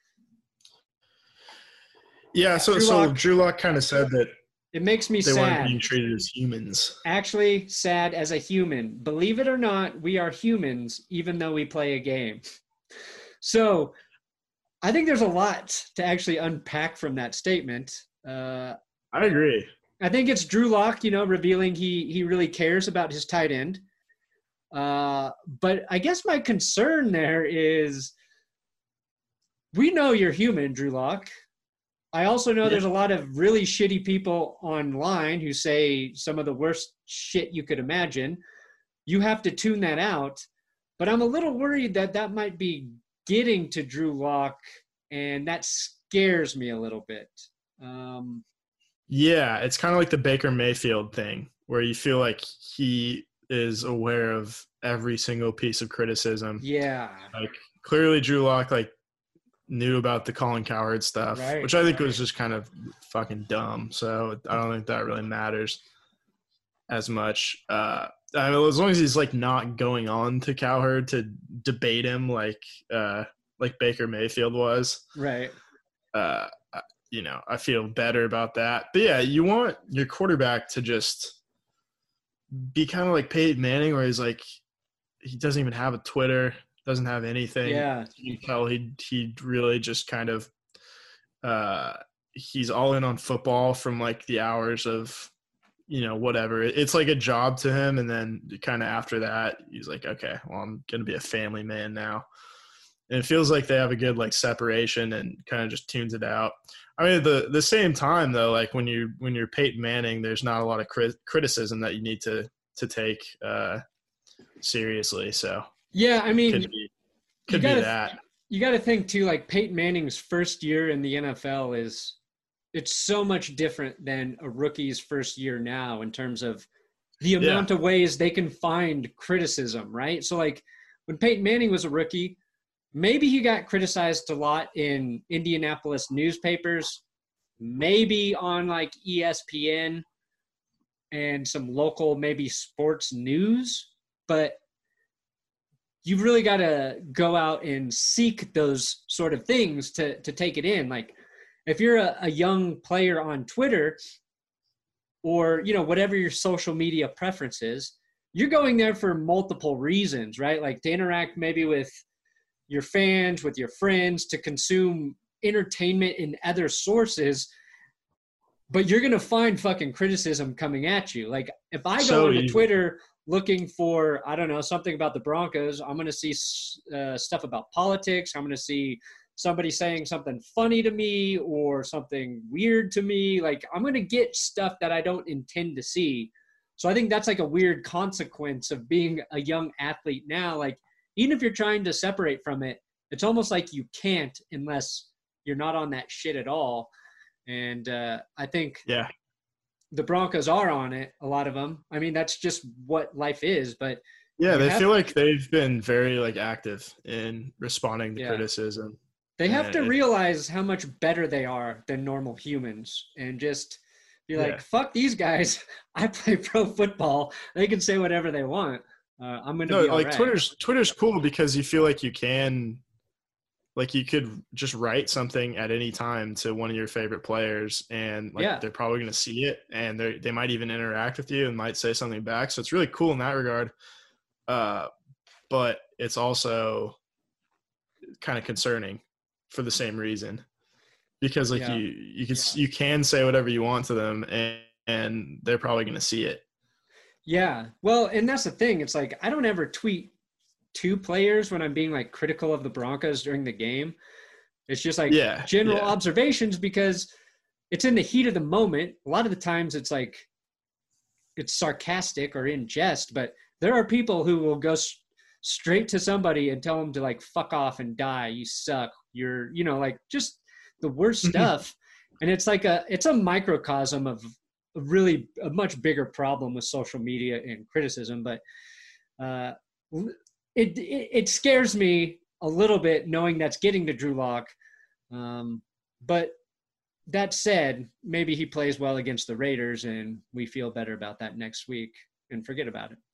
Yeah, so Drew so Lock- Drew Lock kind of said that It makes me they weren't sad. being treated as humans. Actually, sad as a human. Believe it or not, we are humans, even though we play a game. So I think there's a lot to actually unpack from that statement. Uh, I agree. I think it's Drew Lock, you know, revealing he he really cares about his tight end. Uh, but I guess my concern there is we know you're human, Drew Lock. I also know Yeah. there's a lot of really shitty people online who say some of the worst shit you could imagine. You have to tune that out. But I'm a little worried that that might be getting to Drew Lock, and that scares me a little bit. Um, Yeah, it's kind of like the Baker Mayfield thing where you feel like he is aware of every single piece of criticism. yeah. Like clearly Drew Lock like knew about the Colin Cowherd stuff, Right, which I think right. was just kind of fucking dumb. So I don't think that really matters as much. Uh, I mean, as long as he's like not going on to Cowherd to debate him like uh, like Baker Mayfield was. Right. Uh, you know, I feel better about that. But yeah, you want your quarterback to just be kind of like Peyton Manning, where he's like, he doesn't even have a Twitter, doesn't have anything. Yeah. You can tell he he really just kind of, uh, he's all in on football from like the hours of, you know, whatever. It's like a job to him. And then kind of after that, he's like, okay, well, I'm going to be a family man now. And it feels like they have a good like separation and kind of just tunes it out. I mean, the the same time though, like when you when you're Peyton Manning, there's not a lot of crit- criticism that you need to to take. Uh, seriously. So yeah, I mean, could be could you gotta, be that. You got to think too. Like Peyton Manning's first year in the N F L is it's so much different than a rookie's first year now in terms of the amount Yeah. of ways they can find criticism, right? So like when Peyton Manning was a rookie, maybe he got criticized a lot in Indianapolis newspapers, maybe on like E S P N and some local maybe sports news, but you've really got to go out and seek those sort of things to to take it in. Like if you're a, a young player on Twitter or, you know, whatever your social media preference is, you're going there for multiple reasons, right? Like to interact maybe with your fans, with your friends, to consume entertainment in other sources, but you're going to find fucking criticism coming at you. Like if I go So onto easy. Twitter looking for, I don't know, something about the Broncos, I'm going to see uh, stuff about politics. I'm going to see somebody saying something funny to me or something weird to me. Like I'm going to get stuff that I don't intend to see. So I think that's like a weird consequence of being a young athlete now. Like even if you're trying to separate from it, it's almost like you can't unless you're not on that shit at all. And uh, I think Yeah. the Broncos are on it, a lot of them. I mean, that's just what life is. But Yeah, you they have- feel like they've been very like active in responding to Yeah. criticism. they have Yeah, to it- realize how much better they are than normal humans and just be like, Yeah. fuck these guys. I play pro football. They can say whatever they want. Uh, I'm going to No, be all like right. Twitter's Twitter's cool because you feel like you can, like you could just write something at any time to one of your favorite players, and like Yeah. they're probably going to see it, and they they might even interact with you and might say something back. So it's really cool in that regard. Uh, but it's also kind of concerning for the same reason, because like Yeah. you you can you can say whatever you want to them, and and they're probably going to see it. Yeah. Well, and that's the thing. It's like I don't ever tweet two players when I'm being like critical of the Broncos during the game. It's just like Yeah, general yeah. observations because it's in the heat of the moment. A lot of the times it's like it's sarcastic or in jest, but there are people who will go s- straight to somebody and tell them to like fuck off and die. You suck. You're, you know, like just the worst stuff. And it's like a it's a microcosm of a really a much bigger problem with social media and criticism. But uh, it, it it scares me a little bit knowing that's getting to Drew Lock. Um, but that said, maybe he plays well against the Raiders and we feel better about that next week and forget about it.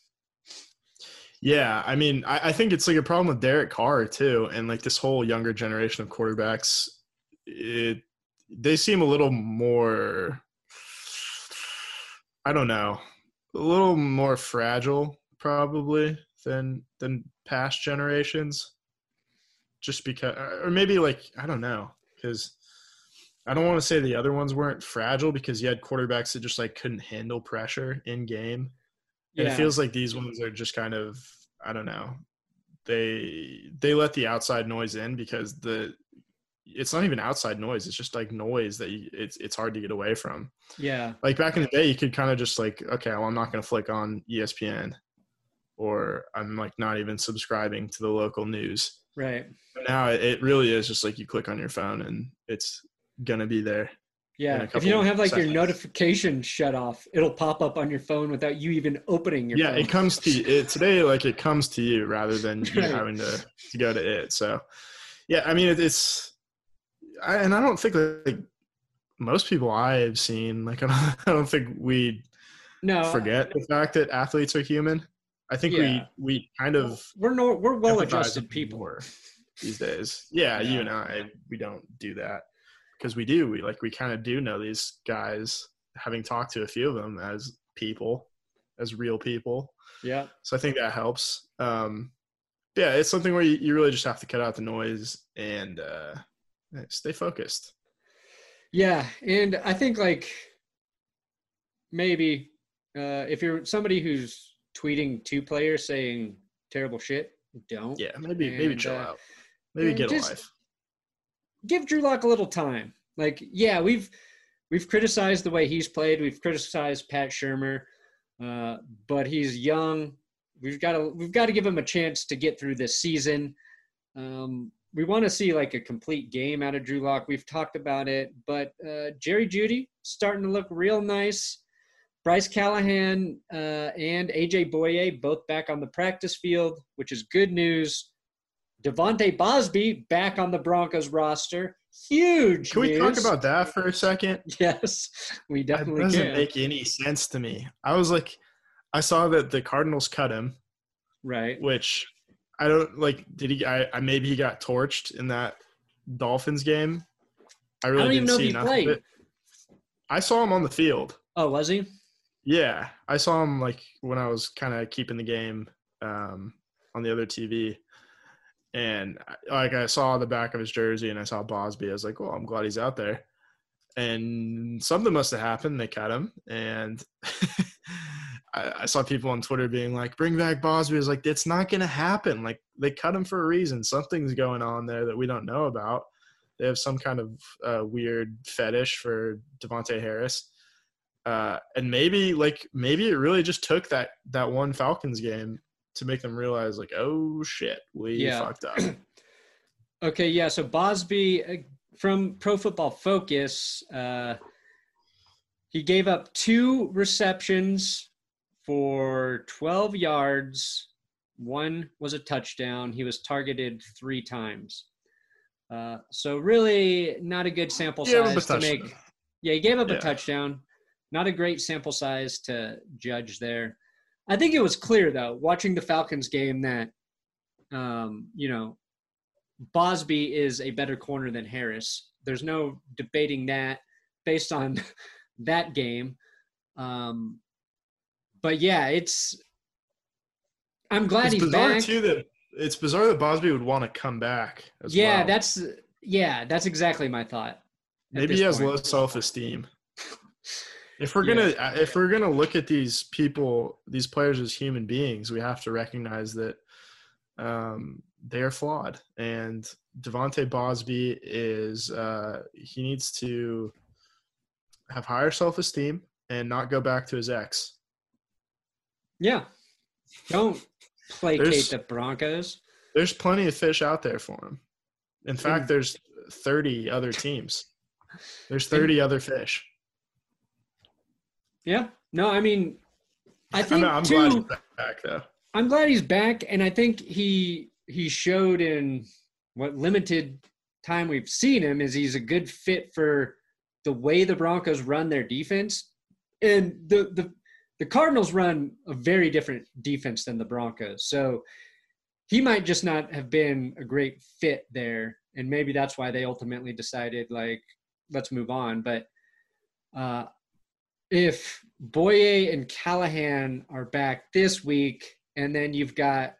Yeah, I mean, I, I think it's like a problem with Derek Carr too, and like this whole younger generation of quarterbacks. It they seem a little more, I don't know, a little more fragile probably than than past generations. Just because, or maybe like I don't know, because I don't want to say the other ones weren't fragile because you had quarterbacks that just like couldn't handle pressure in game. And Yeah. it feels like these ones are just kind of, I don't know, they they let the outside noise in because the it's not even outside noise. It's just like noise that you, it's it's hard to get away from. Yeah. Like back in the day, you could kind of just like, okay, well, I'm not going to flick on E S P N, or I'm like not even subscribing to the local news. Right. But now it, it really is just like you click on your phone and it's going to be there. in Yeah. a If couple you don't have like seconds. your notification shut off, it'll pop up on your phone without you even opening your Yeah, phone. it comes to it today. Like it comes to you rather than you Right. having to, to go to it. So, yeah, I mean, it, it's, I, and I don't think like most people I've seen, like I don't, I don't think we No. forget the fact that athletes are human. I think Yeah. we we kind of We're no, we're empathize well-adjusted with people. more these days. Yeah, you Yeah. and I, we don't do that because we do. We like we kind of do know these guys, having talked to a few of them as people, as real people. Yeah. So I think that helps. Um, yeah, it's something where you, you really just have to cut out the noise and uh, stay focused. Yeah, and I think like maybe uh, if you're somebody who's tweeting two players saying terrible shit, don't. Yeah, maybe maybe And, chill uh, out. Maybe and get just- a life. Give Drew Lock a little time. Like, yeah, we've we've criticized the way he's played. We've criticized Pat Shermer, uh, but he's young. we've got to we've got to give him a chance to get through this season. Um, we want to see like a complete game out of Drew Lock. We've talked about it, but uh, Jerry Jeudy starting to look real nice. Bryce Callahan uh, and A J Boye both back on the practice field, which is good news. Devontae Bosby back on the Broncos roster. Huge Can we news. talk about that for a second? Yes, we definitely That doesn't can. make any sense to me. I was like, I saw that the Cardinals cut him, Right. which I don't like. Did he? I, I maybe he got torched in that Dolphins game. I really I don't even didn't know if see he enough played. of it. I saw him on the field. Oh, was he? Yeah, I saw him like when I was kind of keeping the game um, on the other T V, and like I saw the back of his jersey and I saw Bosby. I was like, "Well, I'm glad he's out there." And something must have happened. They cut him, and I, I saw people on Twitter being like, "Bring back Bosby." I was like, "It's not going to happen. Like they cut him for a reason. Something's going on there that we don't know about. They have some kind of uh, weird fetish for Devontae Harris." Uh, and maybe like maybe it really just took that that one Falcons game to make them realize like, oh shit, we Yeah. fucked up. Okay, yeah. So Bosby uh, from Pro Football Focus, uh, he gave up two receptions for twelve yards. One was a touchdown. He was targeted three times. Uh, so really not a good sample He gave up a size to touchdown. make. Yeah, he gave up Yeah. a touchdown. Not a great sample size to judge there. I think it was clear, though, watching the Falcons game that, um, you know, Bosby is a better corner than Harris. There's no debating that based on that game. Um, but, yeah, it's – I'm glad It's he's bizarre back. too that it's bizarre that Bosby would want to come back. As yeah, well. that's – yeah, that's exactly my thought. at maybe this he has point. low self-esteem. If we're Yeah. gonna if we're gonna look at these people, these players as human beings, we have to recognize that um, they are flawed. And Devontae Bosby is uh, he needs to have higher self-esteem and not go back to his ex. Yeah. Don't placate There's- the Broncos. There's plenty of fish out there for him. In fact, And- there's thirty other teams. There's thirty other fish. Yeah. No, I mean, I I think mean, I'm too, glad he's back though. I'm glad he's back, and I think he he showed in what limited time we've seen him is he's a good fit for the way the Broncos run their defense, and the the the Cardinals run a very different defense than the Broncos, so he might just not have been a great fit there, and maybe that's why they ultimately decided like let's move on, but. Uh, If Boye and Callahan are back this week, and then you've got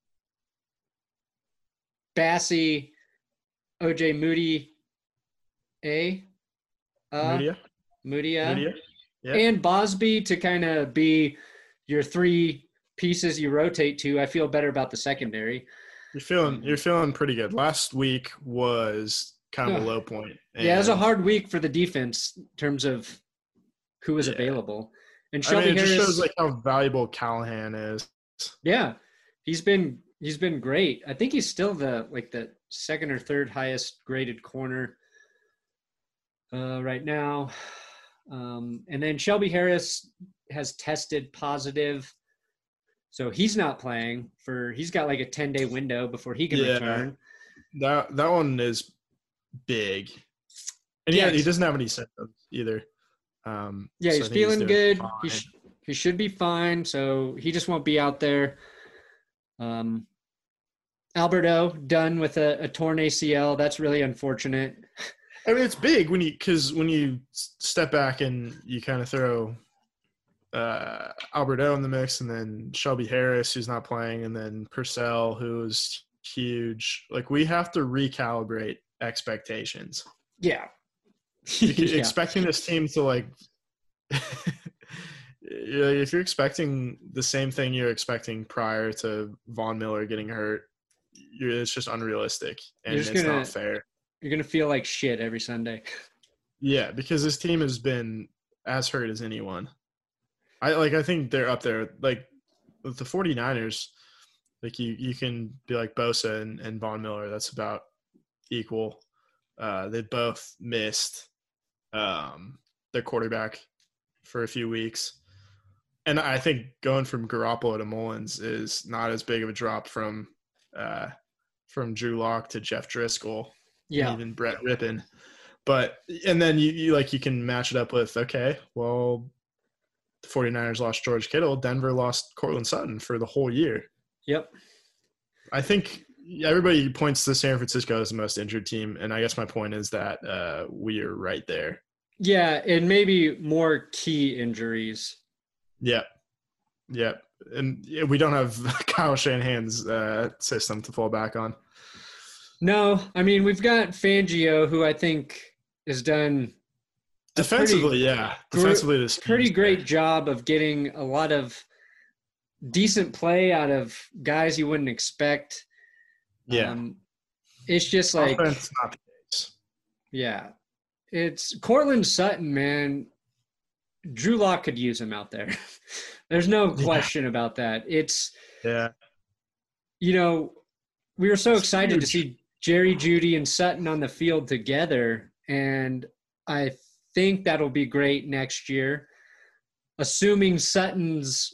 Bassey, O J Moody, A, uh, Media, Moody, uh, media. Yeah. and Bosby to kind of be your three pieces you rotate to. I feel better about the secondary. You're feeling you're feeling pretty good. Last week was kind of a Yeah. low point. Yeah, it was a and, hard week for the defense in terms of who was Yeah. available. And I Shelby mean, it Harris, just shows like how valuable Callahan is. yeah, he's been he's been great. I think he's still the like the second or third highest graded corner uh, right now. Um, and then Shelby Harris has tested positive, so he's not playing for. He's got like a ten day window before he can Yeah. return. That that one is big, and yeah, Yes. he doesn't have any symptoms either. Um, Yeah, so he's I think feeling doing good. fine. He sh- he should be fine. So he just won't be out there. Um, Alberto done with a, a torn A C L. That's really unfortunate. I mean, it's big when you because when you s- step back and you kind of throw uh, Alberto in the mix, and then Shelby Harris, who's not playing, and then Purcell, who's huge. Like we have to recalibrate expectations. Yeah. You can- Yeah. Expecting this team to like, yeah, if you're expecting the same thing you're expecting prior to Von Miller getting hurt, you're, it's just unrealistic and You're it's just gonna- not fair. You're gonna feel like shit every Sunday. Yeah, because this team has been as hurt as anyone. I like. I think they're up there. Like with the 49ers, like you, you can be like Bosa and, and Von Miller. That's about equal. Uh, they both missed um, their quarterback for a few weeks. And I think going from Garoppolo to Mullins is not as big of a drop from uh, from Drew Lock to Jeff Driscoll, Yeah. and even Brett Rippon. But and then you, you like you can match it up with, okay, well, the 49ers lost George Kittle, Denver lost Cortland Sutton for the whole year. Yep. I think everybody points to San Francisco as the most injured team, and I guess my point is that uh, we are right there. Yeah, and maybe more key injuries. Yep. Yep. And we don't have Kyle Shanahan's uh, system to fall back on. No, I mean, we've got Fangio, who I think has done defensively, pretty, yeah. Defensively, this pretty great job of getting a lot of decent play out of guys you wouldn't expect. Yeah. Um, it's just like Offense, not the case. Yeah. It's Cortland Sutton, man. Drew Lock could use him out there. There's no question yeah. about that. It's, yeah. you know, we were so it's excited huge. to see Jerry Jeudy and Sutton on the field together, and I think that'll be great next year, assuming Sutton's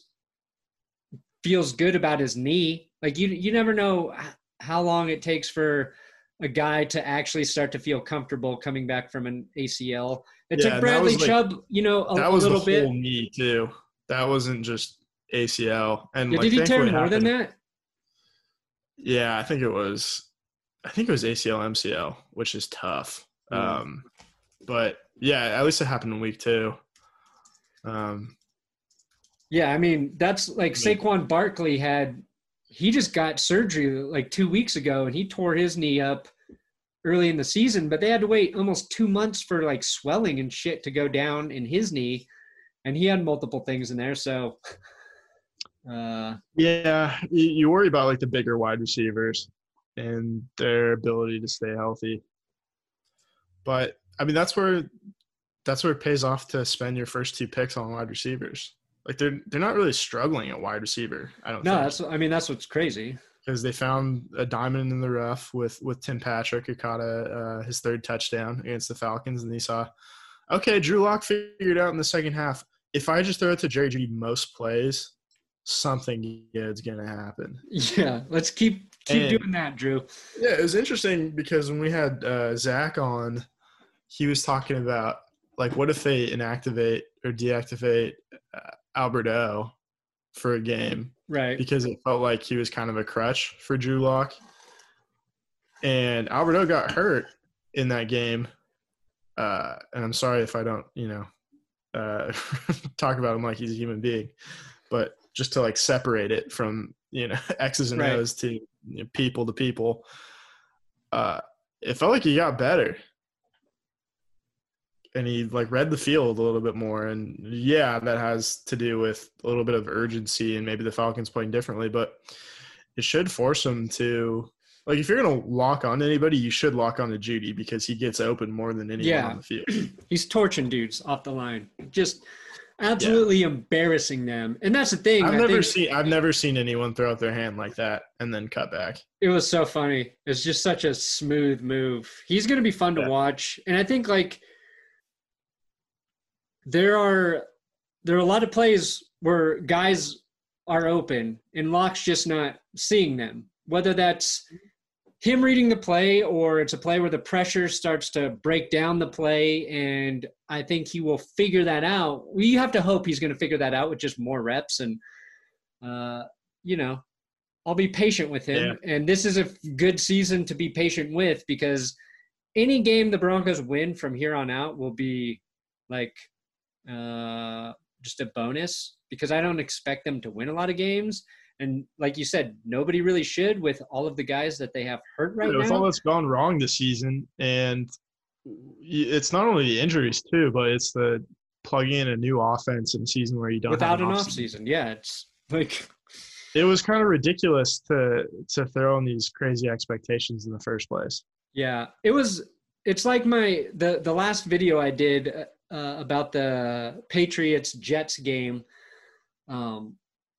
feels good about his knee. Like you, you never know how long it takes for a guy to actually start to feel comfortable coming back from an A C L. It Yeah, took Bradley like, Chubb, you know, a, that was a little the bit. Whole knee too. That wasn't just A C L. And Yeah, like, did he tear more happened, than that? Yeah, I think it was. I think it was A C L, M C L, which is tough. Mm. Um, but yeah, at least it happened in week two. Um, yeah, I mean that's like Saquon Barkley had. He just got surgery like two weeks ago, and he tore his knee up early in the season. But they had to wait almost two months for like swelling and shit to go down in his knee, and he had multiple things in there. So, uh, yeah, you, you worry about like the bigger wide receivers and their ability to stay healthy. But I mean, that's where that's where it pays off to spend your first two picks on wide receivers. Like they're they're not really struggling at wide receiver. I don't. No, think. that's. I mean, that's what's crazy. Because they found a diamond in the rough with with Tim Patrick, who caught a uh, his third touchdown against the Falcons, and he saw, okay, Drew Lock figured out in the second half. If I just throw it to Jerry Jeudy most plays, something good's gonna happen. Yeah, let's keep keep and, doing that, Drew. Yeah, it was interesting because when we had uh, Zach on, he was talking about like what if they inactivate or deactivate uh, Albert O for a game. Right. Because it felt like he was kind of a crutch for Drew Lock. And Alberto got hurt in that game. Uh, and I'm sorry if I don't, you know, uh, talk about him like he's a human being. But just to, like, separate it from, you know, X's and right. O's to you know, people to people, uh, it felt like he got better. And he, like, read the field a little bit more. And, yeah, that has to do with a little bit of urgency and maybe the Falcons playing differently. But it should force him to – like, if you're going to lock on to anybody, you should lock on to Jeudy because he gets open more than anyone yeah. on the field. He's torching dudes off the line. Just absolutely yeah. embarrassing them. And that's the thing. I've I never think seen I've never seen anyone throw out their hand like that and then cut back. It was so funny. It's just such a smooth move. He's going to be fun yeah. to watch. And I think, like – There are there are a lot of plays where guys are open and Lock's just not seeing them. Whether that's him reading the play or it's a play where the pressure starts to break down the play, and I think he will figure that out. We have to hope he's going to figure that out with just more reps. And, uh, you know, I'll be patient with him. Yeah. And this is a good season to be patient with because any game the Broncos win from here on out will be like – Uh, just a bonus because I don't expect them to win a lot of games. And like you said, nobody really should with all of the guys that they have hurt right yeah, with now. With all that's gone wrong this season, and it's not only the injuries too, but it's the plugging in a new offense in a season where you don't without have an, an off off season. Yeah, it's like it was kind of ridiculous to to throw in these crazy expectations in the first place. Yeah, it was. It's like my the the last video I did. Uh, about the Patriots-Jets game, um,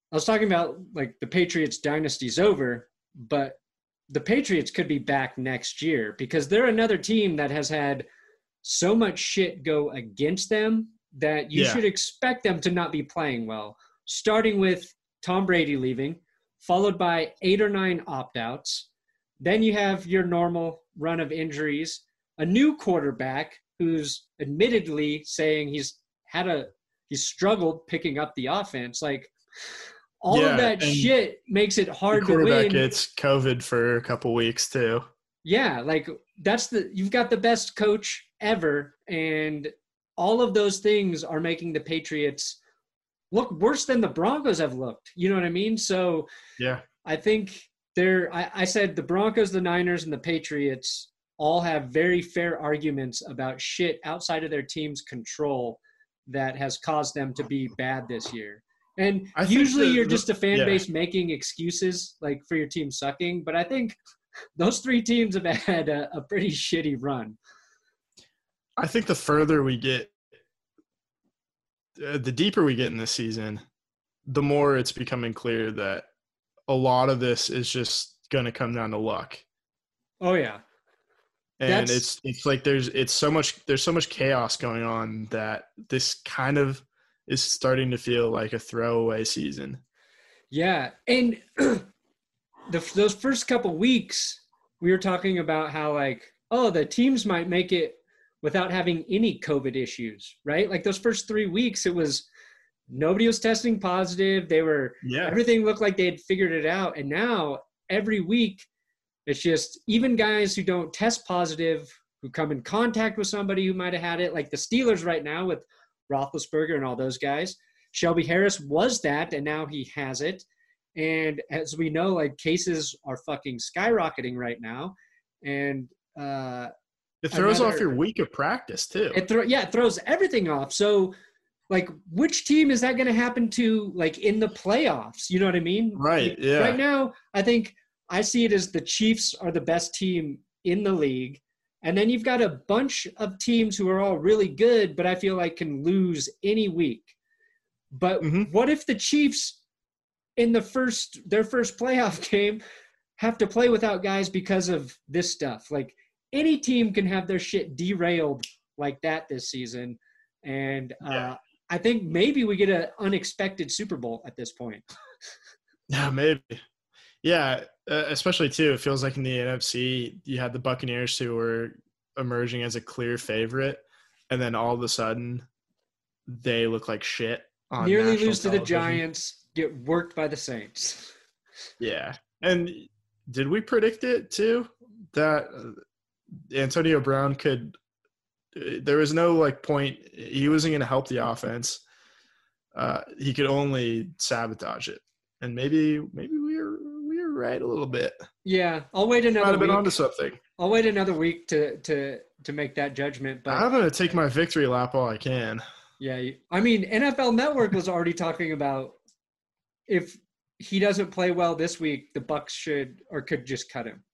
I was talking about like the Patriots dynasty's over, but the Patriots could be back next year because they're another team that has had so much shit go against them that you Yeah. should expect them to not be playing well, starting with Tom Brady leaving, followed by eight or nine opt-outs. Then you have your normal run of injuries, a new quarterback who's admittedly saying he's had a he's struggled picking up the offense. Like all Yeah, of that and shit makes it The hard to quarterback win. gets COVID for a couple weeks too. Yeah, like that's the you've got the best coach ever, and all of those things are making the Patriots look worse than the Broncos have looked. You know what I mean? So Yeah. I think they're I, I said the Broncos, the Niners, and the Patriots all have very fair arguments about shit outside of their team's control that has caused them to be bad this year. And I think usually the- you're the- just a fan yeah. base making excuses like for your team sucking, but I think those three teams have had a, a pretty shitty run. I think the further we get, uh, the deeper we get in this season, the more it's becoming clear that a lot of this is just going to come down to luck. Oh yeah. And That's- it's it's like there's it's so much there's so much chaos going on that this kind of is starting to feel like a throwaway season. Yeah, and the, those first couple weeks, we were talking about how like, oh, the teams might make it without having any COVID issues, right? Like those first three weeks, it was nobody was testing positive. They were Yeah. everything looked like they had figured it out, and now every week, it's just even guys who don't test positive who come in contact with somebody who might have had it, like the Steelers right now with Roethlisberger and all those guys. Shelby Harris was that, and now he has it. And as we know, like cases are fucking skyrocketing right now. And uh, It throws Another- off your week of practice too. it throw yeah, it throws everything off. So, like, which team is that going to happen to, like, in the playoffs? You know what I mean? Right, Like, yeah. Right now, I think I see it as the Chiefs are the best team in the league. And then you've got a bunch of teams who are all really good, but I feel like can lose any week. But Mhm. what if the Chiefs in the first their first playoff game have to play without guys because of this stuff? Like any team can have their shit derailed like that this season. And uh, Yeah. I think maybe we get an unexpected Super Bowl at this point. Yeah, maybe. Yeah, uh, especially too. It feels like in the N F C, you had the Buccaneers who were emerging as a clear favorite, and then all of a sudden, they look like shit. On Nearly national lose to the television. Giants, get worked by the Saints. Yeah, and did we predict it too that uh, Antonio Brown could? uh, There was no like point. He wasn't going to help the offense. Uh, he could only sabotage it, and maybe maybe we were we were right a little bit. Yeah, I'll wait Might another have been week. onto something. I'll wait another week to to to make that judgment. But I'm gonna take my victory lap while I can. yeah, you- I mean, N F L Network was already talking about if he doesn't play well this week, the Bucks should or could just cut him.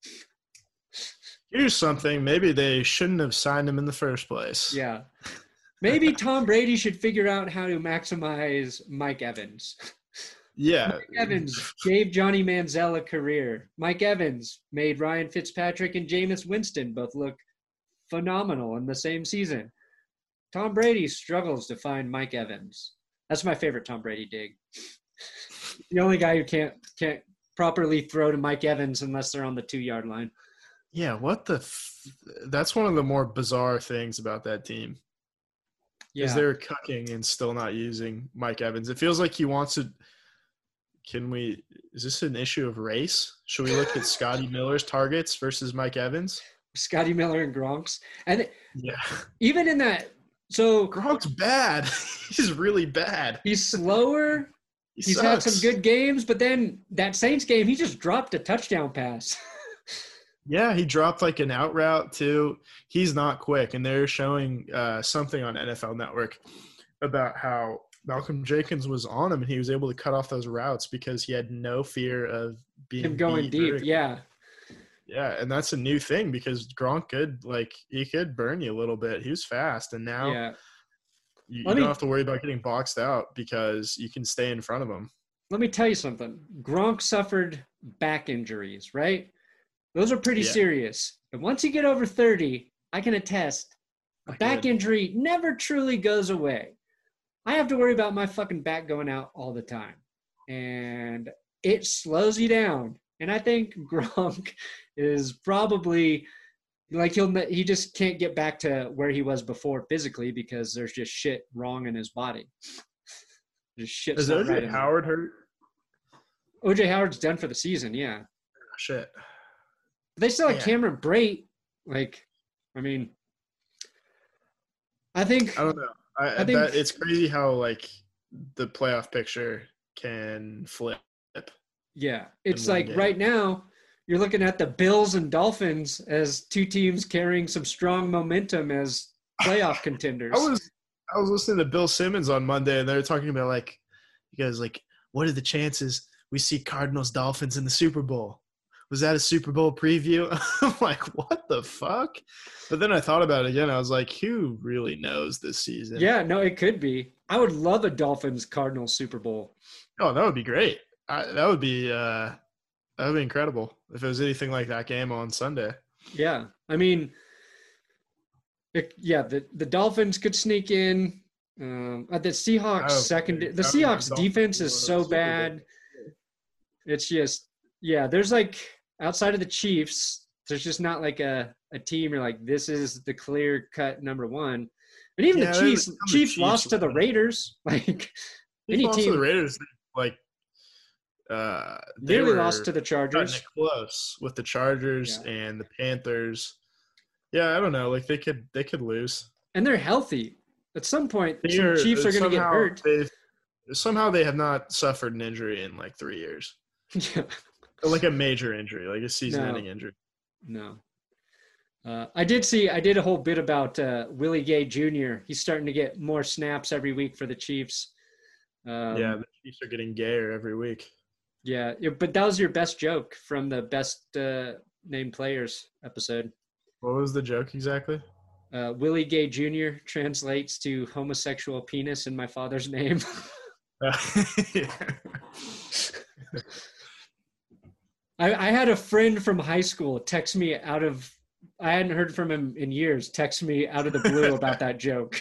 Here's something. Maybe they shouldn't have signed him in the first place. Yeah, maybe Tom Brady should figure out how to maximize Mike Evans. Yeah. Mike Evans gave Johnny Manziel a career. Mike Evans made Ryan Fitzpatrick and Jameis Winston both look phenomenal in the same season. Tom Brady struggles to find Mike Evans. That's my favorite Tom Brady dig. The only guy who can't can't properly throw to Mike Evans unless they're on the two-yard line. Yeah. What the? F- That's one of the more bizarre things about that team. Yeah. Is they're cooking and still not using Mike Evans. It feels like he wants to. Can we? Is this an issue of race? Should we look at Scotty Miller's targets versus Mike Evans? Scotty Miller and Gronk's. And Yeah, even in that, so Gronk's bad. He's really bad. he's slower. He He's had sucks. some good games, but then that Saints game, he just dropped a touchdown pass. Yeah, he dropped like an out route too. He's not quick, and they're showing uh, something on N F L Network about how Malcolm Jenkins was on him, and he was able to cut off those routes because he had no fear of being Him going beat deep, vertically. yeah. Yeah, and that's a new thing because Gronk could like he could burn you a little bit. He was fast, and now Yeah. you, you Let don't me- have to worry about getting boxed out because you can stay in front of him. let me tell you something. Gronk suffered back injuries, right? Those are pretty Yeah. serious. And once you get over thirty, I can attest, a Not back good. injury never truly goes away. I have to worry about my fucking back going out all the time. And it slows you down. And I think Gronk is probably like he'll he just can't get back to where he was before physically because there's just shit wrong in his body. Just shit's Is not O J right in there. Howard hurt? O J Howard's done for the season, yeah. Shit. They still have Yeah. Cameron Brate. Like, I mean, I think I don't know. I, I think- that, it's crazy how like the playoff picture can flip. yeah, it's one like game. right now you're looking at the Bills and Dolphins as two teams carrying some strong momentum as playoff contenders. I was I was listening to Bill Simmons on Monday, and they were talking about like, you guys like, what are the chances we see Cardinals Dolphins in the Super Bowl? Was that a Super Bowl preview? I'm like, what the fuck? But then I thought about it again. I was like, who really knows this season? Yeah, no, it could be. I would love a Dolphins Cardinals Super Bowl. Oh, that would be great. I, that would be uh, that would be incredible if it was anything like that game on Sunday. Yeah, I mean, it, yeah, the the Dolphins could sneak in. Um, uh, the Seahawks Oh, second, the I would think Seahawks Dolphins defense would is win the so Super Bowl. bad. It's just, yeah, there's like outside of the Chiefs, there's just not like a, a team you're like, this is the clear cut number one. And even Yeah, the they Chiefs, become the Chiefs Chiefs lost to the right. Raiders. Like He any lost to team the Raiders, like uh, they nearly were lost to the cutting Chargers. it close with the Chargers Yeah. and the Panthers. Yeah, I don't know. Like they could they could lose. And they're healthy. At some point, They some are- Chiefs are going to get somehow hurt. they've- Somehow they have not suffered an injury in like three years, Yeah. like a major injury, like a season-ending No. injury. No. Uh, I did see, I did a whole bit about uh, Willie Gay Junior He's starting to get more snaps every week for the Chiefs. Um, yeah, the Chiefs are getting gayer every week. Yeah. yeah, But that was your best joke from the best uh, named players episode. What was the joke exactly? Uh, Willie Gay Junior translates to homosexual penis in my father's name. Yeah. I, I had a friend from high school text me out of, I hadn't heard from him in years, text me out of the blue about that joke.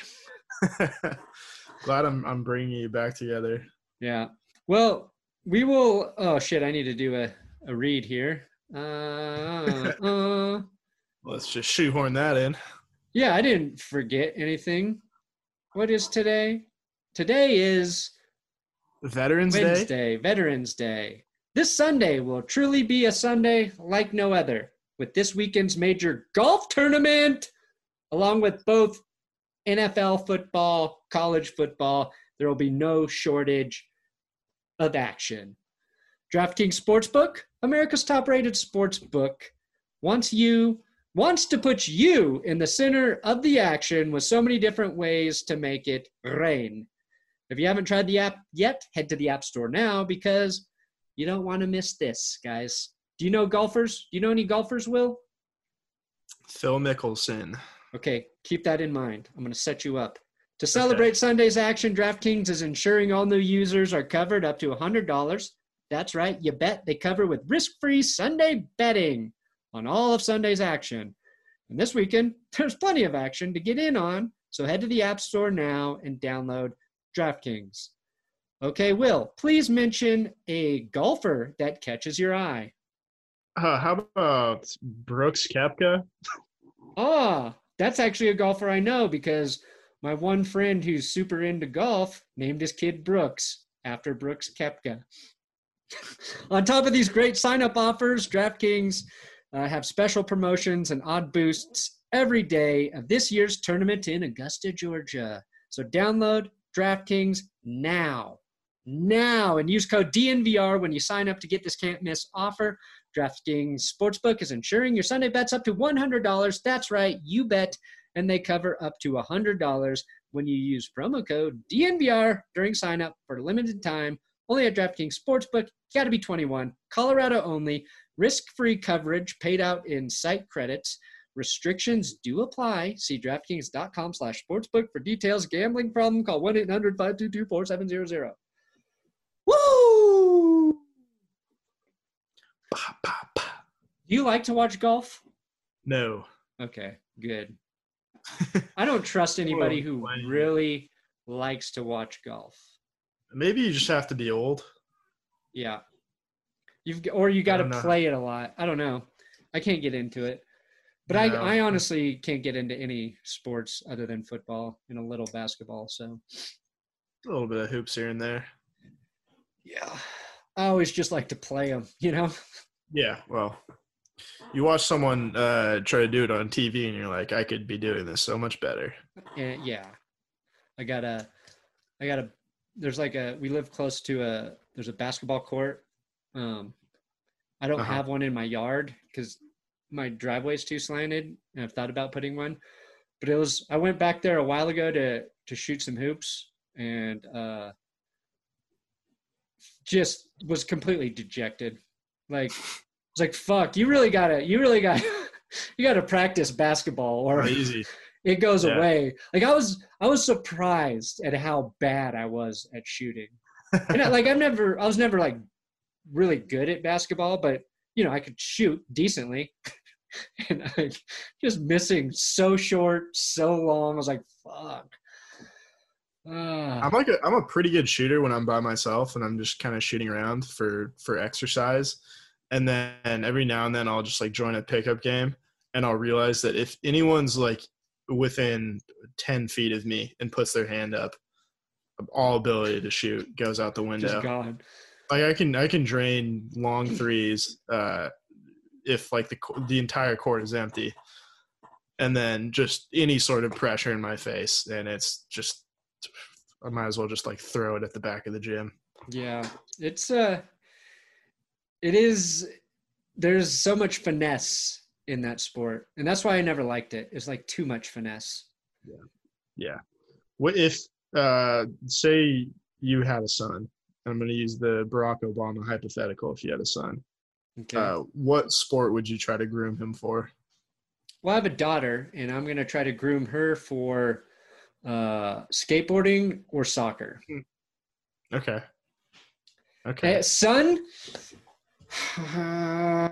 Glad I'm I'm bringing you back together. Yeah. Well, we will. Oh shit! I need to do a, a read here. Uh, uh, Let's just shoehorn that in. yeah, I didn't forget anything. What is today? Today is Veterans Day. Wednesday, Veterans Day. This Sunday will truly be a Sunday like no other, with this weekend's major golf tournament, along with both N F L football, college football. There will be no shortage of action. DraftKings Sportsbook, America's top-rated sportsbook, wants you wants to put you in the center of the action with so many different ways to make it rain. If you haven't tried the app yet, head to the App Store now because you don't want to miss this, guys. Do you know golfers? Do you know any golfers, Will? Phil Mickelson. Okay, keep that in mind. I'm going to set you up. To celebrate okay. Sunday's action, DraftKings is ensuring all new users are covered up to one hundred dollars. That's right, you bet they cover with risk-free Sunday betting on all of Sunday's action. And this weekend, there's plenty of action to get in on, so head to the App Store now and download DraftKings. Okay, Will, please mention a golfer that catches your eye. Uh, how about Brooks Koepka? Ah, that's actually a golfer I know because my one friend who's super into golf named his kid Brooks after Brooks Koepka. On top of these great sign-up offers, DraftKings uh, have special promotions and odd boosts every day of this year's tournament in Augusta, Georgia. So download DraftKings now. Now, and use code D N V R when you sign up to get this can't-miss offer. DraftKings Sportsbook is ensuring your Sunday bets up to one hundred dollars. That's right, you bet, and they cover up to one hundred dollars when you use promo code D N V R during sign-up for a limited time. Only at DraftKings Sportsbook. You got to be twenty-one. Colorado only. Risk-free coverage paid out in site credits. Restrictions do apply. See DraftKings.com slash sportsbook for details. Gambling problem? Call one eight hundred five two two four seven zero zero. Woo! Woo! Bah, bah, bah. Do you like to watch golf? No. Okay, good. I don't trust anybody who Playing. really likes to watch golf. Maybe you just have to be old. Yeah. You've or you got to don't know. play it a lot. I don't know. I can't get into it. But No. I, I honestly can't get into any sports other than football and a little basketball. So, A little bit of hoops here and there. yeah. I always just like to play them, you know? Yeah, well, you watch someone uh, try to do it on T V and you're like, I could be doing this so much better. And yeah. I got a, I got a, there's like a, we live close to a, there's a basketball court. Um, I don't Uh-huh. have one in my yard because my driveway's too slanted, and I've thought about putting one. But it was I went back there a while ago to to shoot some hoops, and uh, just was completely dejected. Like it's like fuck, you really gotta, you really got, you gotta practice basketball, or Easy. it goes Yeah. away. Like I was I was surprised at how bad I was at shooting. And I, like I've never I was never like really good at basketball, but you know, I could shoot decently. And I just missing so short, so long. I was like, fuck. Ah. I'm like a, I'm a pretty good shooter when I'm by myself and I'm just kind of shooting around for for exercise. And then every now and then I'll just like join a pickup game and I'll realize that if anyone's like within ten feet of me and puts their hand up, all ability to shoot goes out the window. Just gone. Like I can I can drain long threes uh, if like the the entire court is empty, and then just any sort of pressure in my face, and it's just I might as well just like throw it at the back of the gym. Yeah, it's uh, it is. There's so much finesse in that sport, and that's why I never liked it. It's like too much finesse. Yeah. What if uh, say you had a son? I'm going to use the Barack Obama hypothetical. If you had a son, Okay. uh, what sport would you try to groom him for? Well, I have a daughter, and I'm gonna try to groom her for uh, skateboarding or soccer. Okay. Okay. Uh, son, I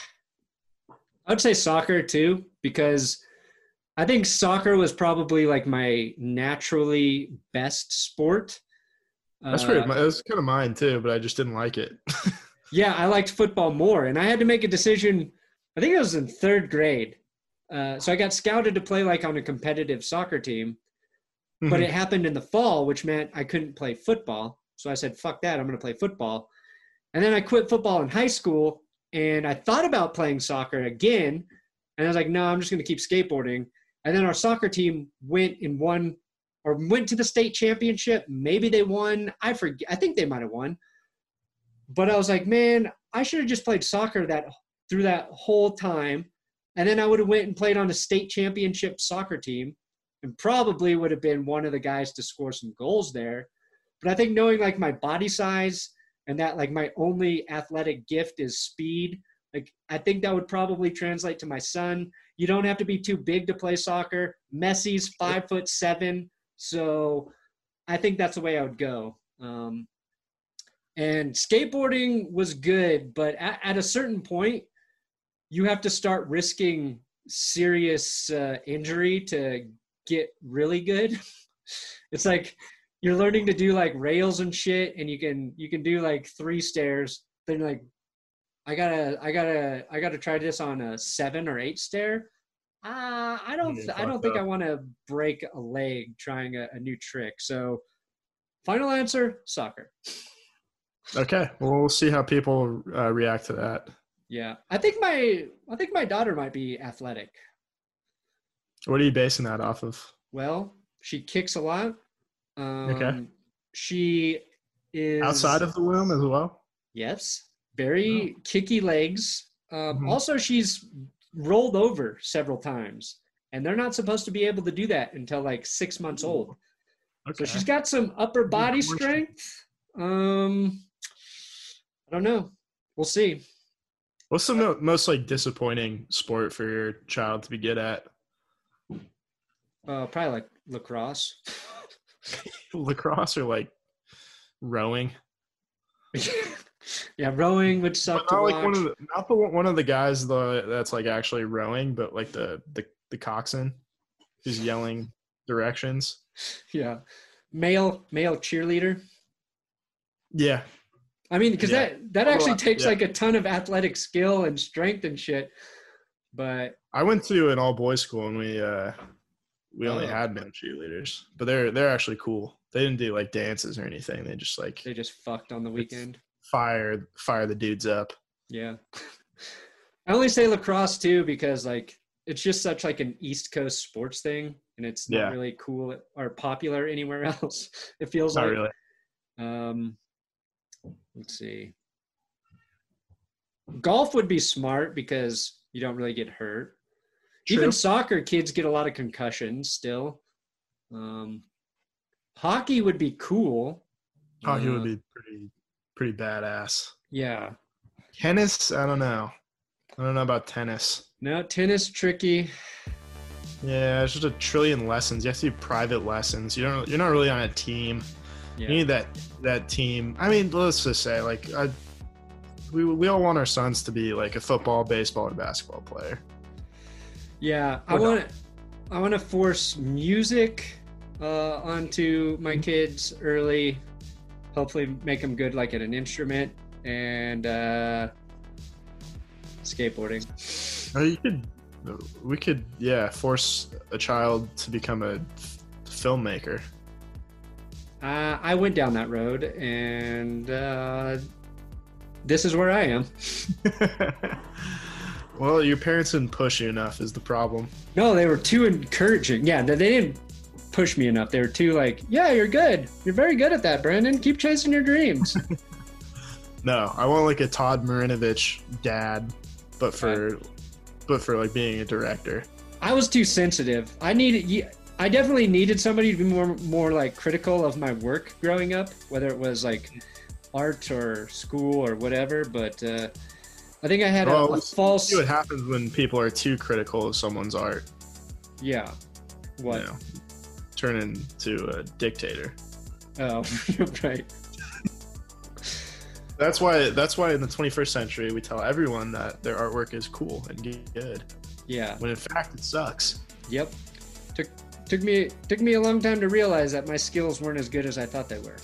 would say soccer too, because I think soccer was probably like my naturally best sport. That's Uh, weird. My- That was kind of mine too, but I just didn't like it. Yeah, I liked football more, and I had to make a decision. I think it was in third grade. Uh, so I got scouted to play like on a competitive soccer team, but it happened in the fall, which meant I couldn't play football. So I said, fuck that, I'm going to play football. And then I quit football in high school, and I thought about playing soccer again. And I was like, no, I'm just going to keep skateboarding. And then our soccer team went and won, or went to the state championship. Maybe they won. I forget. I think they might have won. But I was like, man, I should have just played soccer that through that whole time. And then I would have went and played on a state championship soccer team and probably would have been one of the guys to score some goals there. But I think knowing like my body size and that like my only athletic gift is speed, like I think that would probably translate to my son. You don't have to be too big to play soccer. Messi's five foot seven. So I think that's the way I would go. Um, and skateboarding was good, but at, at a certain point, you have to start risking serious uh, injury to get really good. It's like you're learning to do like rails and shit, and you can you can do like three stairs. Then like, I gotta I gotta I gotta try this on a seven or eight stair. Uh, I don't Yeah, I don't fucked think up. I want to break a leg trying a, a new trick. So, final answer: soccer. Okay. Well, we'll see how people uh, react to that. Yeah, I think my I think my daughter might be athletic. What are you basing that off of? Well, she kicks a lot. Um, Okay. She is Outside of the womb as well? yes, very kicky legs. Um, Mhm. Also, she's rolled over several times, and they're not supposed to be able to do that until like six months old. Okay. So she's got some upper body course. strength. Um, I don't know. We'll see. What's the mo- most like disappointing sport for your child to be good at? Uh, probably like lacrosse. Lacrosse or like rowing? Yeah, rowing would But suck to not watch. like one of the not the one of the guys though that's like actually rowing, but like the the the coxswain who's yelling directions. Yeah, male male cheerleader. Yeah, I mean, because Yeah. that that Although actually I- takes yeah. like a ton of athletic skill and strength and shit. But I went to an all boys school and we uh we only Oh. had male cheerleaders, but they're they're actually cool. They didn't do like dances or anything. They just like they just fucked on the weekend. fire fire the dudes up. Yeah. I only say lacrosse too because like it's just such like an East Coast sports thing, and it's not Yeah. really cool or popular anywhere else. It feels Not like. really. Um, let's see. Golf would be smart because you don't really get hurt. True. Even soccer, kids get a lot of concussions still. Um, hockey would be cool. Hockey Uh, would be pretty pretty badass. Yeah. Tennis, I don't know. I don't know about tennis. No, tennis tricky. Yeah, it's just a trillion lessons. You have to do private lessons. You don't. You're not really on a team. Yeah. You need that that team. I mean, let's just say, like, I, we we all want our sons to be like a football, baseball, or basketball player. Yeah, I Or not. want I want to force music uh, onto my kids early. Hopefully, make them good like at an instrument and uh, skateboarding. Or you could, we could, yeah, force a child to become a f- filmmaker. Uh, I went down that road, and uh, this is where I am. Well, your parents didn't push you enough is the problem. No, they were too encouraging. Yeah, they they didn't push me enough. They were too like, yeah, you're good. You're very good at that, Brandon. Keep chasing your dreams. No, I want like a Todd Marinovich dad, but for, but for like being a director. I was too sensitive. I needed. ye- I definitely needed somebody to be more, more like critical of my work growing up, whether it was like art or school or whatever. But uh, I think I had a, Well, a we false. See what happens when people are too critical of someone's art. Yeah. What? You know, turn into a dictator. Oh, right. That's why. That's why in the twenty-first century we tell everyone that their artwork is cool and good, Yeah. when in fact it sucks. Yep. Took took me took me a long time to realize that my skills weren't as good as I thought they were.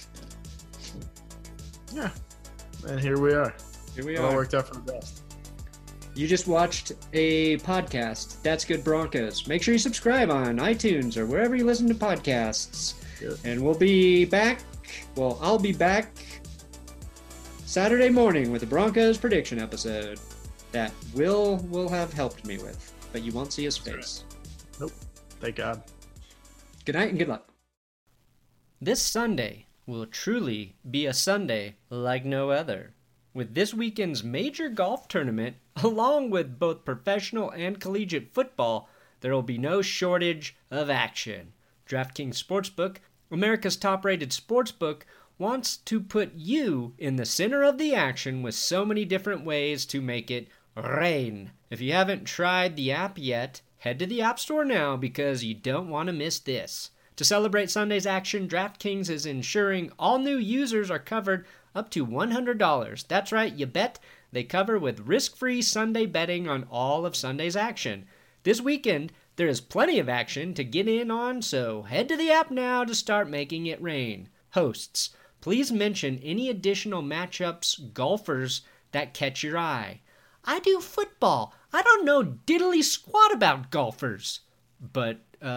Yeah, and here we are. Here we It all are. worked out for the best. You just watched a podcast, That's Good Broncos. Make sure you subscribe on iTunes or wherever you listen to podcasts. Yep. And we'll be back. Well, I'll be back Saturday morning with the Broncos prediction episode that Will will have helped me with, but you won't see his face. Thank God. Good night and good luck. This Sunday will truly be a Sunday like no other. With this weekend's major golf tournament, along with both professional and collegiate football, there will be no shortage of action. DraftKings Sportsbook, America's top-rated sportsbook, wants to put you in the center of the action with so many different ways to make it rain. If you haven't tried the app yet, head to the App Store now because you don't want to miss this. To celebrate Sunday's action, DraftKings is ensuring all new users are covered up to one hundred dollars. That's right, you bet. They cover with risk-free Sunday betting on all of Sunday's action. This weekend, there is plenty of action to get in on, so head to the app now to start making it rain. Hosts, please mention any additional matchups, golfers that catch your eye. I do football. I don't know diddly squat about golfers. But, uh,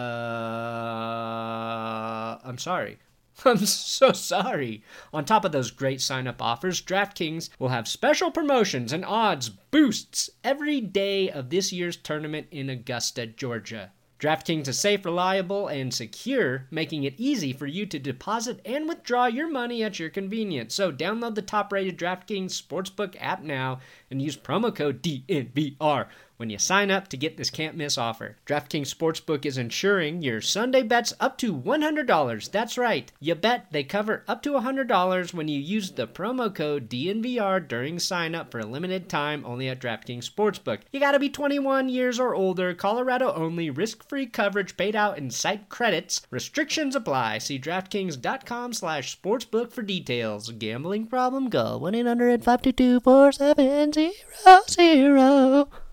I'm sorry. I'm so sorry. On top of those great sign-up offers, DraftKings will have special promotions and odds boosts every day of this year's tournament in Augusta, Georgia. DraftKings is safe, reliable, and secure, making it easy for you to deposit and withdraw your money at your convenience. So download the top-rated DraftKings Sportsbook app now and use promo code D N V R when you sign up to get this can't-miss offer. DraftKings Sportsbook is insuring your Sunday bets up to one hundred dollars. That's right. You bet they cover up to one hundred dollars when you use the promo code D N V R during sign-up for a limited time only at DraftKings Sportsbook. You gotta be twenty-one years or older, Colorado only, risk-free coverage paid out in site credits. Restrictions apply. See DraftKings.com slash sportsbook for details. Gambling problem? Call one eight hundred five two two four seven zero zero.